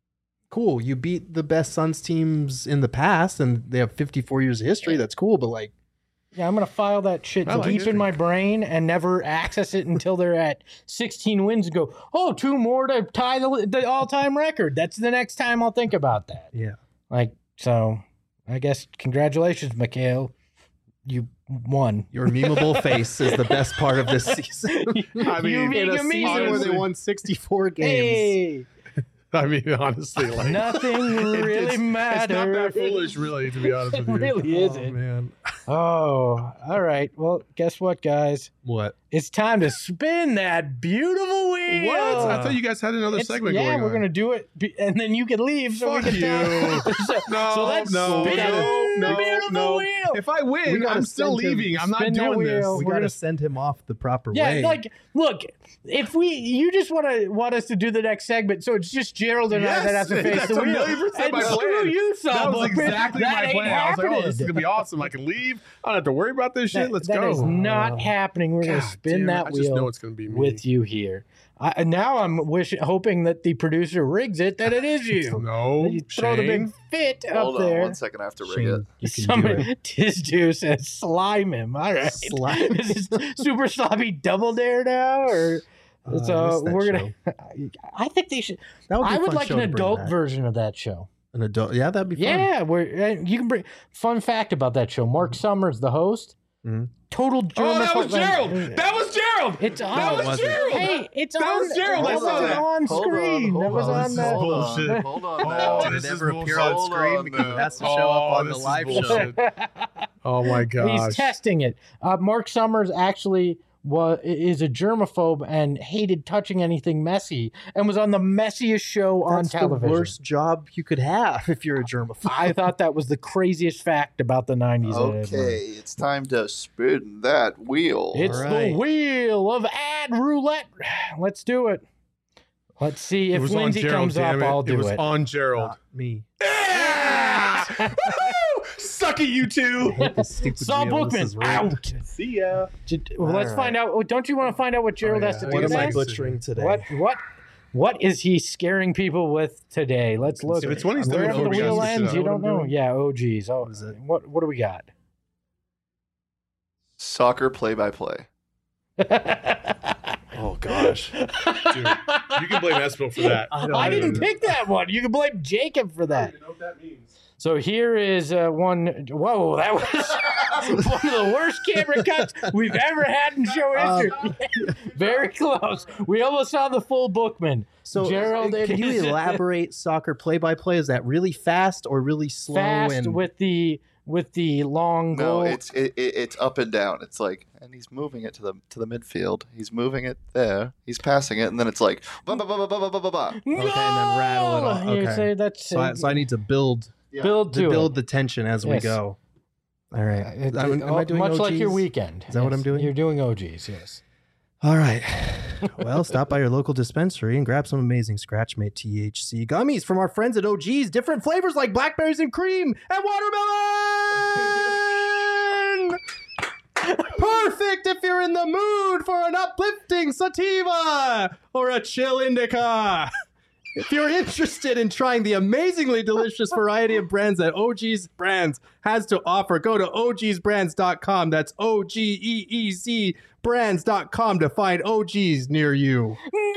cool. You beat the best Suns teams in the past, and they have 54 years of history. That's cool, but like, I'm going to file that shit I like deep it. in my brain and never access it until they're at 16 wins and go, 2 more to tie the all-time record. That's the next time I'll think about that. yeah. Like, so I guess congratulations, Mikal. You won. Your memeable face is the best part of this season. I mean, You In being a season where honestly- they won 64 games. Hey, I mean, honestly, like nothing really matters. It's not that foolish, really, to be honest It with you. really isn't. man. Oh, all right. Well, guess what, guys? What? It's time to spin that beautiful wheel. What? I thought you guys had another segment going on. we're gonna do it, and then you can leave so Fuck we can you. so, No, so let's no, spin no, the beautiful no. wheel. If I We win, gotta I'm still send him- leaving. I'm not spin that doing this. wheel. We We're got to gonna- send him off the proper Yeah, way. like, look, if you just want us to do the next segment, so it's just Gerald and I that have to Yes, face that's the a wheel. million% And my screw plan. you, That was Sawbuck. exactly That my ain't plan. I was like, oh, this is happening. going to be awesome. I can leave. I don't have to worry about this shit. Let's That go. is not happening. We're going to God spin damn it. that I just know wheel it's going to be me. with you here. Now I'm hoping that the producer rigs it, that it is you. No, That you throw the Shane. big fit Hold up on there. 1 second. I have to rig Shane, it. you can do Somebody, it. Tizdu says slime him. All right. Slime. Is this Super Sloppy Double Dare now? Or I missed so that we're going to. I think they should. That would be a I would fun like show an to bring adult back. version of that show. An adult, yeah, that'd be fun. Yeah, where you can bring. Fun fact about that show: Mark Summers, the host, Mhm. total. Oh, that was germaphobe- Gerald. That was Gerald. It's on. That was Gerald. Hey, it's That on. was Gerald. I That saw wasn't that. on Hold screen. on, That was hold on This is the. bullshit. Hold on Oh, now. Did it this ever is appear on bullshit. screen because it has to show up on the this is live show? bullshit. Oh my gosh. He's testing it. Mark Summers actually is a germaphobe and hated touching anything messy, and was on the messiest show on That's television. the worst job you could have if you're a germaphobe. I thought that was the craziest fact about the 90s. I had learned. Okay, it's time to spin that wheel. It's All the right. wheel of ad roulette. Let's do it. Let's see It if was on Lindsay Gerald, comes up. damn it. I'll do It was it. on Gerald. Not me. Yeah! Woohoo! Suck it, you two. I hate this stupid Saul wheel. This Bookman is rigged. out. See ya. Well, let's All find out. Don't you want to find out what Gerald yeah. has to do What am I next? butchering today? What is he scaring people with today? Let's look. If it's one he's doing Wherever the over, we gotta wheel switch it ends, up. you don't know. Yeah. Oh, geez. Oh, What is it? what do we got? Soccer play-by-play. Oh gosh. Dude, you can blame Espo for that. I didn't pick that one. You can blame Jacob for that. I don't even know what that means. So here is one. Whoa, that was one of the worst camera cuts we've ever had in show history. Very close. We almost saw the full Bookman. So Gerald, can you elaborate soccer play-by-play? Is that really fast or really slow? Fast and with the long No, goal. it's up and down. It's like, and he's moving it to the midfield. He's moving it there. He's passing it, and then it's like, ba ba ba ba ba ba ba ba. Okay, and then rattle it off. You Okay. say that's So I need to build build to build the tension as we Yes. go. All right. Am I doing much like your OGs? weekend. Is that what I'm doing? You're doing OGs, yes. All right. Well, stop by your local dispensary and grab some amazing Scratchmate THC gummies from our friends at OG's. Different flavors like blackberries and cream and watermelon. Perfect if you're in the mood for an uplifting sativa or a chill indica. If you're interested in trying the amazingly delicious variety of brands that OG's Brands has to offer, go to ogsbrands.com. That's OGEEZ brands.com to find OGs near you.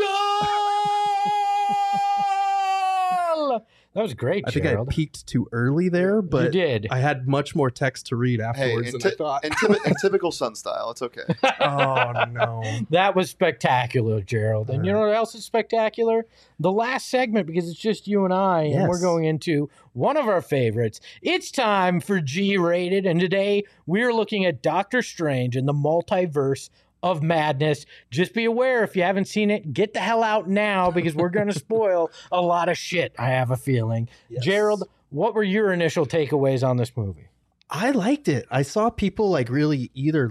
Goal! That was great, I think I Gerald. peaked too early there, but you did. I had much more text to read Hey, afterwards than I thought. in typical Sun style, it's okay. Oh, no. That was spectacular, Gerald. And you know what else is spectacular? The last segment, because it's just you and I, and we're Yes. going into one of our favorites. It's time for G-Rated, and today we're looking at Doctor Strange and the Multiverse of Madness. Just be aware, if you haven't seen it, get the hell out now, because we're going to spoil a lot of shit, I have a feeling. Yes. Gerald, what were your initial takeaways on this movie? I liked it. I saw people like really either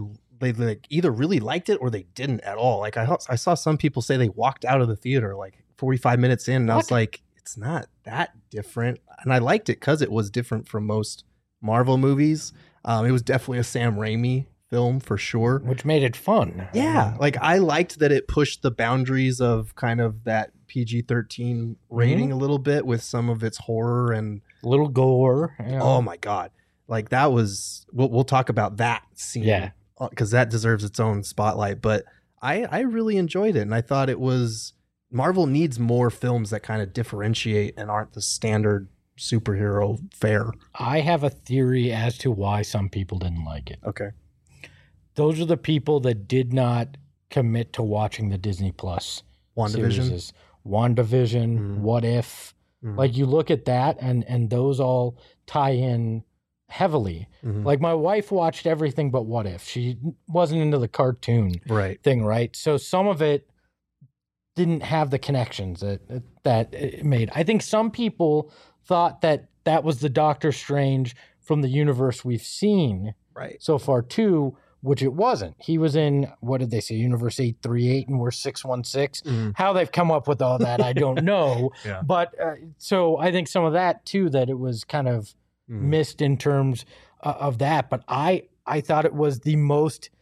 really liked it or they didn't at all. Like I saw some people say they walked out of the theater like 45 minutes in, and I was What? like, it's not that different. And I liked it because it was different from most Marvel movies. It was definitely a Sam Raimi film for sure. Which made it fun. Yeah, like I liked that it pushed the boundaries of kind of that PG-13 rating a little bit with some of its horror and Little gore. You know. oh my god, like that was we'll talk about that scene, Yeah. because that deserves its own spotlight. But I really enjoyed it, and I thought it was Marvel needs more films that kind of differentiate and aren't the standard superhero fare. I have a theory as to why some people didn't like it. Okay, Those are the people that did not commit to watching the Disney Plus WandaVision. series. WandaVision, Mhm. What If. Mhm. Like you look at that and those all tie in heavily. Mhm. Like my wife watched everything but What If. She wasn't into the cartoon Right. thing, right? So some of it didn't have the connections that it made. I think some people thought that that was the Doctor Strange from the universe we've seen Right. so far too, which it wasn't. He was in, what did they say, Universe 838 and we're 616. Mhm. How they've come up with all that, I don't know. Yeah. But so I think some of that too, that it was kind of Mhm. missed in terms of that. But I thought it was the most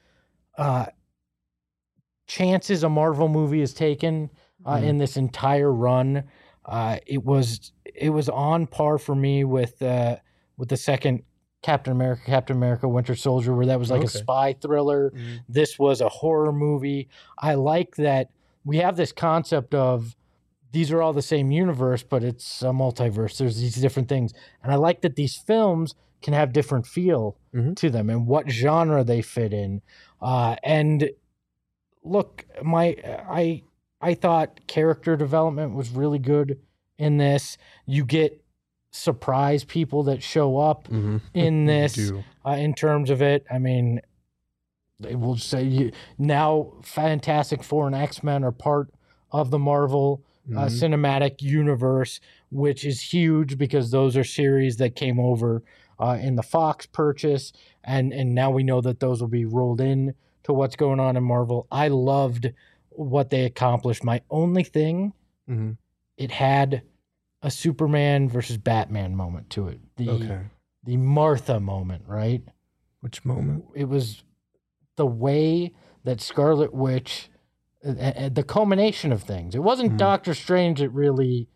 chances a Marvel movie has taken in this entire run. It was on par for me with the second Captain America Winter Soldier, where that was like a Okay. spy thriller. Mhm. This was a horror movie. I like that we have this concept of these are all the same universe, but it's a multiverse. There's these different things. And I like that these films can have different feel Mhm. to them and what genre they fit in. And look, I thought character development was really good in this. You get surprise people that show up Mhm. in this Do. in terms of it. I mean, they will say now Fantastic Four and X-Men are part of the Marvel Mhm. cinematic universe, which is huge because those are series that came over in the Fox purchase, and now we know that those will be rolled in to what's going on in Marvel. I loved what they accomplished. My only thing, Mhm. it had a Superman versus Batman moment to it. Okay. The Martha moment, right? Which moment? It was the way that Scarlet Witch, the culmination of things. It wasn't Mhm. Doctor Strange that really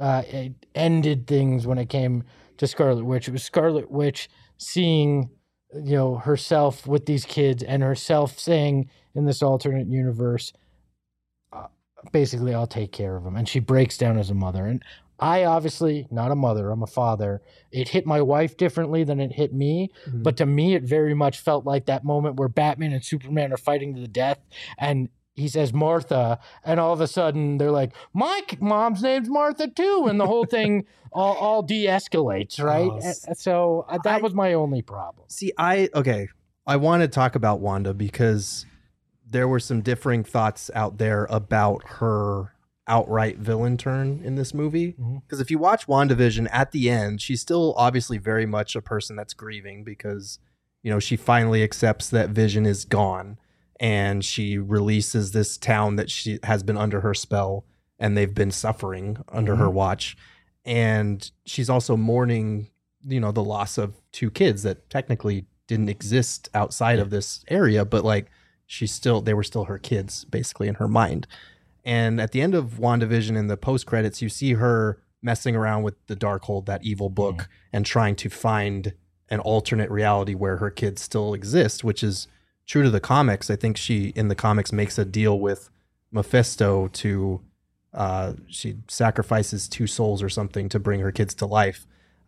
it ended things when it came to Scarlet Witch. It was Scarlet Witch seeing herself with these kids and herself saying in this alternate universe, basically, I'll take care of them. And she breaks down as a mother. And I obviously, not a mother, I'm a father. It hit my wife differently than it hit me. Mhm. But to me, it very much felt like that moment where Batman and Superman are fighting to the death. And he says, Martha. And all of a sudden, they're like, my mom's name's Martha, too. And the whole thing all de-escalates, right? Oh, And so that was my only problem. See, I want to talk about Wanda because there were some differing thoughts out there about her outright villain turn in this movie. Because if you watch WandaVision, at the end, she's still obviously very much a person that's grieving because, she finally accepts that Vision is gone and she releases this town that she has been under her spell and they've been suffering under her watch. And she's also mourning, the loss of 2 kids that technically didn't exist outside of this area, but like they were still her kids basically in her mind. And at the end of WandaVision in the post credits, you see her messing around with the Darkhold, that evil book, and trying to find an alternate reality where her kids still exist, which is true to the comics. I think she in the comics makes a deal with Mephisto to she sacrifices 2 souls or something to bring her kids to life.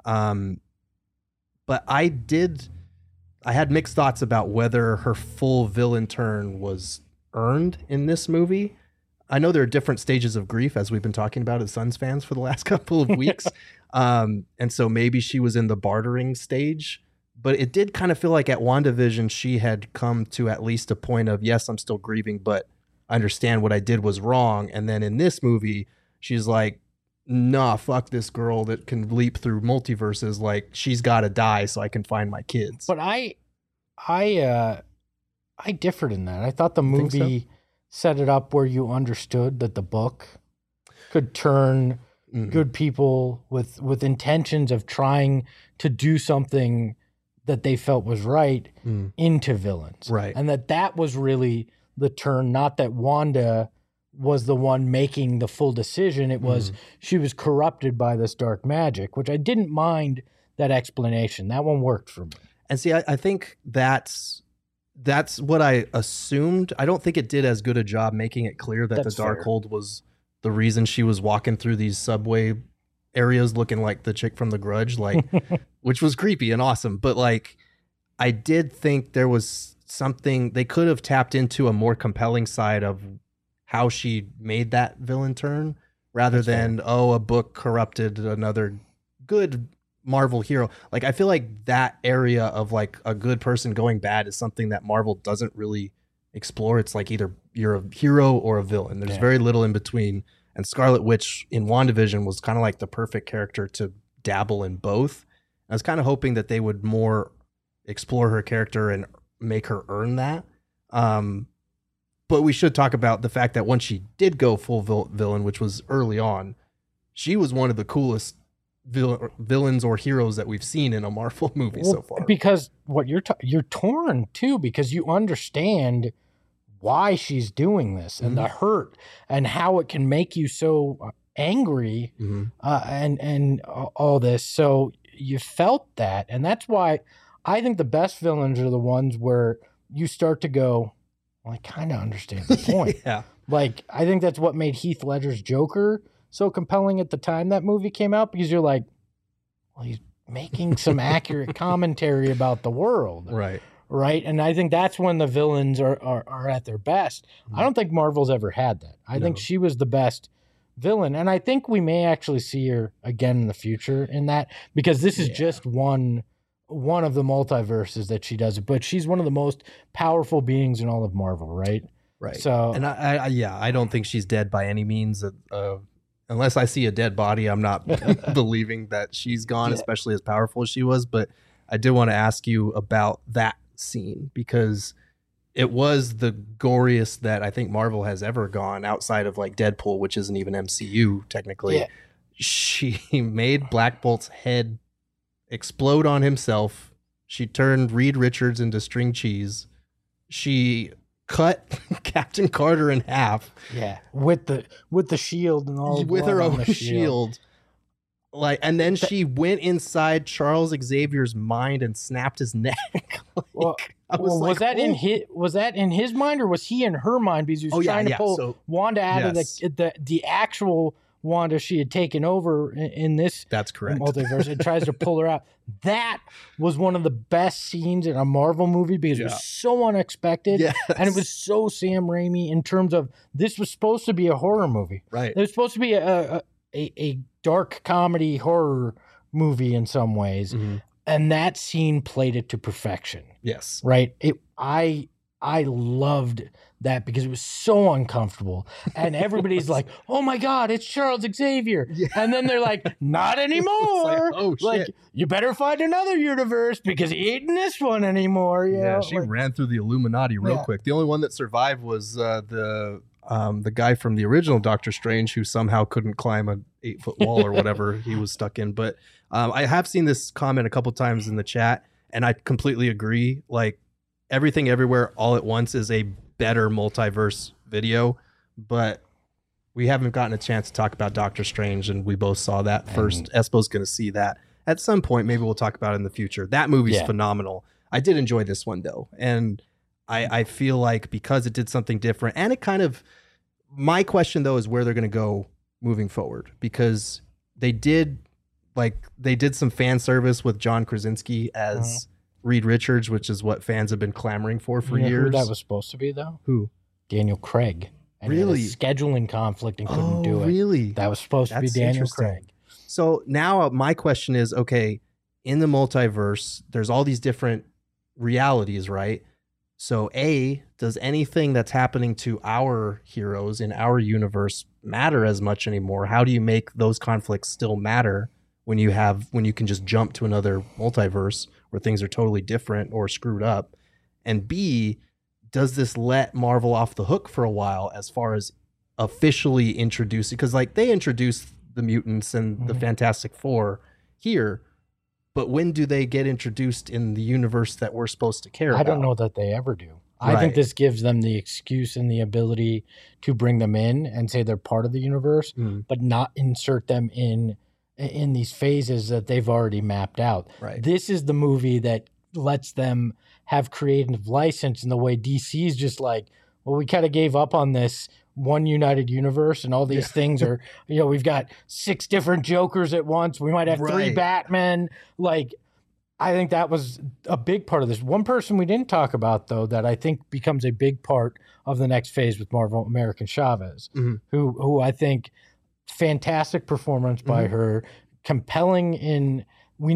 But I had mixed thoughts about whether her full villain turn was earned in this movie. I know there are different stages of grief, as we've been talking about as Suns fans for the last couple of weeks. And so maybe she was in the bartering stage, but it did kind of feel like at WandaVision, she had come to at least a point of, yes, I'm still grieving, but I understand what I did was wrong. And then in this movie, she's like, nah, fuck this girl that can leap through multiverses. Like, she's got to die so I can find my kids. But I differed in that. I thought the Think so? movie set it up where you understood that the book could turn good people with intentions of trying to do something that they felt was right into villains. Right. And that was really the turn, not that Wanda was the one making the full decision. It was she was corrupted by this dark magic, which I didn't mind that explanation. That one worked for me. And see, I think that's what I assumed. I don't think it did as good a job making it clear that That's the fair. Darkhold was the reason she was walking through these subway areas looking like the chick from The Grudge, like, which was creepy and awesome. But like, I did think there was something they could have tapped into, a more compelling side of how she made that villain turn, rather than a book corrupted another good Marvel hero. Like, I feel like that area of like a good person going bad is something that Marvel doesn't really explore. It's like either you're a hero or a villain. There's very little in between. And Scarlet Witch in WandaVision was kind of like the perfect character to dabble in both. I was kind of hoping that they would more explore her character and make her earn that. But we should talk about the fact that once she did go full villain, which was early on, she was one of the coolest villains or heroes that we've seen in a Marvel movie so far. Because what you're torn too, because you understand why she's doing this and the hurt and how it can make you so angry and all this. So you felt that, and that's why I think the best villains are the ones where you start to go, well, I kind of understand the point. Yeah. Like, I think that's what made Heath Ledger's Joker so compelling at the time that movie came out, because you're like, well, he's making some accurate commentary about the world. Right. Right. And I think that's when the villains are at their best. I don't think Marvel's ever had that. I think she was the best villain. And I think we may actually see her again in the future in that, because this is just one of the multiverses that she does it. But she's one of the most powerful beings in all of Marvel, right? Right. So, and I don't think she's dead by any means. Unless I see a dead body, I'm not believing that she's gone, especially as powerful as she was. But I did want to ask you about that scene, because it was the goriest that I think Marvel has ever gone outside of like Deadpool, which isn't even MCU technically. Yeah. She made Black Bolt's head explode on himself. She turned Reed Richards into string cheese. She cut Captain Carter in half. yeah, with the shield and all, With her blood on own the shield. Like, and then she went inside Charles Xavier's mind and snapped his neck. Like, Well, I was was like, that in his mind or was he in her mind because he was trying to pull Wanda out of the actual Wanda she had taken over in this That's correct. multiverse. It tries to pull her out. That was one of the best scenes in a Marvel movie because it was so unexpected and it was so Sam Raimi in terms of this was supposed to be a horror movie. Right. It was supposed to be a dark comedy horror movie in some ways. Mm-hmm. And that scene played it to perfection. Yes. Right. I loved that because it was so uncomfortable. And everybody's like, oh my God, it's Charles Xavier. Yeah. And then they're like, not anymore. Like, you better find another universe because he ain't in this one anymore. You know? She ran through the Illuminati real quick. The only one that survived was the guy from the original Doctor Strange who somehow couldn't climb an 8-foot wall or whatever he was stuck in. But I have seen this comment a couple times in the chat, and I completely agree. Like, Everything Everywhere All at Once is a better multiverse video, but we haven't gotten a chance to talk about Doctor Strange, and we both saw that first. Espo's going to see that at some point. Maybe we'll talk about it in the future. That movie's phenomenal. I did enjoy this one, though, and I feel like because it did something different, and it kind of, my question, though, is where they're going to go moving forward, because they did some fan service with John Krasinski as Reed Richards, which is what fans have been clamoring for years. Who that was supposed to be, though? Who? Daniel Craig. And really? He had a scheduling conflict and couldn't do it. Really? That was supposed to be Daniel Craig. So now my question is, okay, in the multiverse, there's all these different realities, right? So does anything that's happening to our heroes in our universe matter as much anymore? How do you make those conflicts still matter when you can just jump to another multiverse where things are totally different or screwed up? And B, does this let Marvel off the hook for a while as far as officially introducing, because like they introduced the mutants and the Fantastic Four here, but when do they get introduced in the universe that we're supposed to care about? I don't know that they ever do. I think this gives them the excuse and the ability to bring them in and say they're part of the universe, but not insert them in these phases that they've already mapped out. Right. This is the movie that lets them have creative license in the way DC's just like, well, we kind of gave up on this one united universe and all these things are, we've got 6 different Jokers at once. We might have 3 Batmen. Like, I think that was a big part of this. One person we didn't talk about, though, that I think becomes a big part of the next phase with Marvel, American Chavez, who I think fantastic performance by her, compelling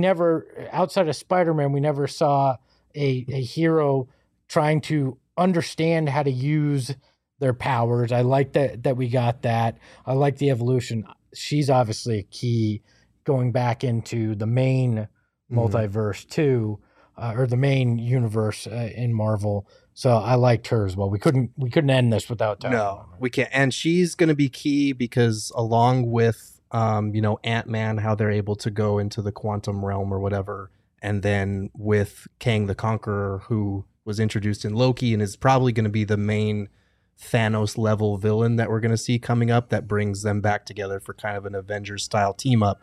outside of Spider-Man, we never saw a hero trying to understand how to use their powers. I like that we got that. I like the evolution. She's obviously a key going back into the main multiverse too, or the main universe in Marvel. So I liked her as well. We couldn't end this without talking about her. We can't. And she's going to be key because along with Ant-Man, how they're able to go into the quantum realm or whatever, and then with Kang the Conqueror, who was introduced in Loki and is probably going to be the main Thanos level villain that we're going to see coming up, that brings them back together for kind of an Avengers style team up.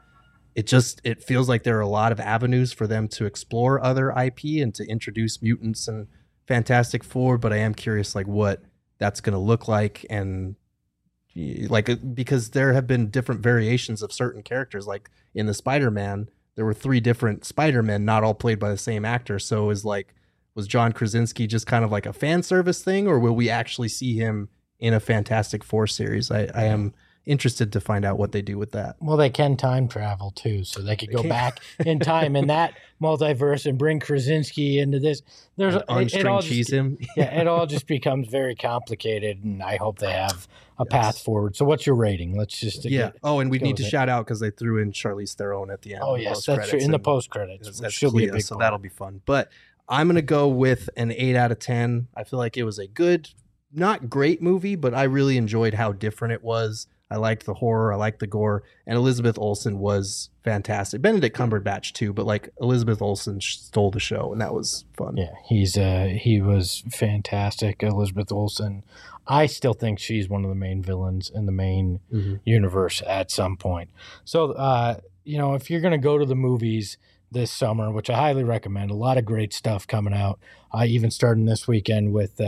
It feels like there are a lot of avenues for them to explore other IP and to introduce mutants and Fantastic Four, but I am curious like what that's going to look like, and like because there have been different variations of certain characters. Like in the Spider-Man, there were 3 different Spider-Men, not all played by the same actor. So was John Krasinski just kind of like a fan service thing, or will we actually see him in a Fantastic Four series? I am interested to find out what they do with that. Well, they can time travel too, so they could go back in time in that multiverse and bring Krasinski into this. There's unstring cheese him. It all just becomes very complicated, and I hope they have a path forward. So, what's your rating? Let's just and we need to shout out because they threw in Charlize Theron at the end. Oh yes, that's true. In the post credits, she'll be a big so that'll be fun. But I'm gonna go with an 8 out of 10. I feel like it was a good, not great movie, but I really enjoyed how different it was. I liked the horror, I liked the gore, and Elizabeth Olsen was fantastic. Benedict Cumberbatch too, but like Elizabeth Olsen stole the show, and that was fun. Yeah, he was fantastic. Elizabeth Olsen, I still think she's one of the main villains in the main universe at some point. So if you're going to go to the movies this summer, which I highly recommend, a lot of great stuff coming out, even starting this weekend with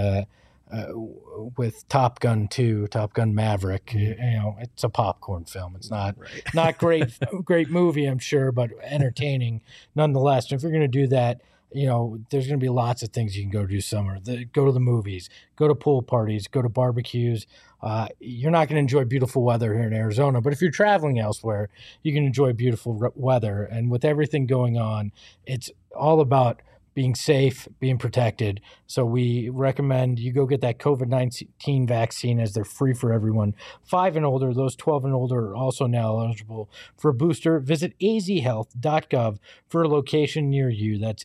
Top Gun 2, Top Gun Maverick. It's a popcorn film. It's not great movie, I'm sure, but entertaining nonetheless. And if you're going to do that, there's going to be lots of things you can go do summer. Go to the movies, go to pool parties, go to barbecues. You're not going to enjoy beautiful weather here in Arizona, but if you're traveling elsewhere, you can enjoy beautiful weather. And with everything going on, it's all about being safe, being protected. So we recommend you go get that COVID-19 vaccine, as they're free for everyone 5 and older. Those 12 and older are also now eligible for a booster. Visit azhealth.gov for a location near you. That's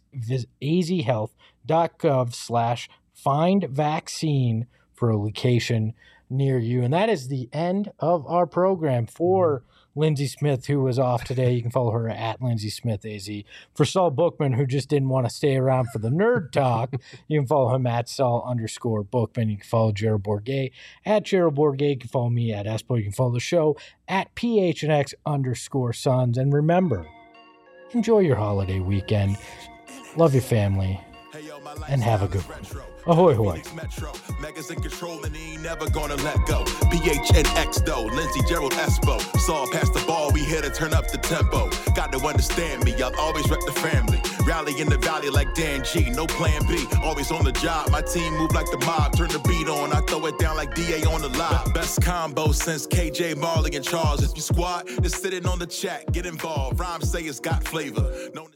azhealth.gov/find-vaccine for a location near you. And that is the end of our program for Lindsay Smith, who was off today. You can follow her at Lindsay Smith AZ. For Saul Bookman, who just didn't want to stay around for the nerd talk, you can follow him at Saul_Bookman. You can follow Gerald Bourguet at Gerald Bourguet. You can follow me at Espo. You can follow the show at PHNX_Sons. And remember, enjoy your holiday weekend. Love your family. And have a good one. Ahoy, hoy. Megas in control and he ain't never gonna let go. PHNX though, Lindsay, Gerald, Espo. Saw past the ball, we here to turn up the tempo. Got to understand me, I'll always rep the family. Rally in the valley like Dan G, no plan B. Always on the job, my team move like the mob. Turn the beat on, I throw it down like DA on the live. Best combo since KJ, Marley, and Charles. If you squad, just sitting on the chat, get involved. Rhymes say it's got flavor. No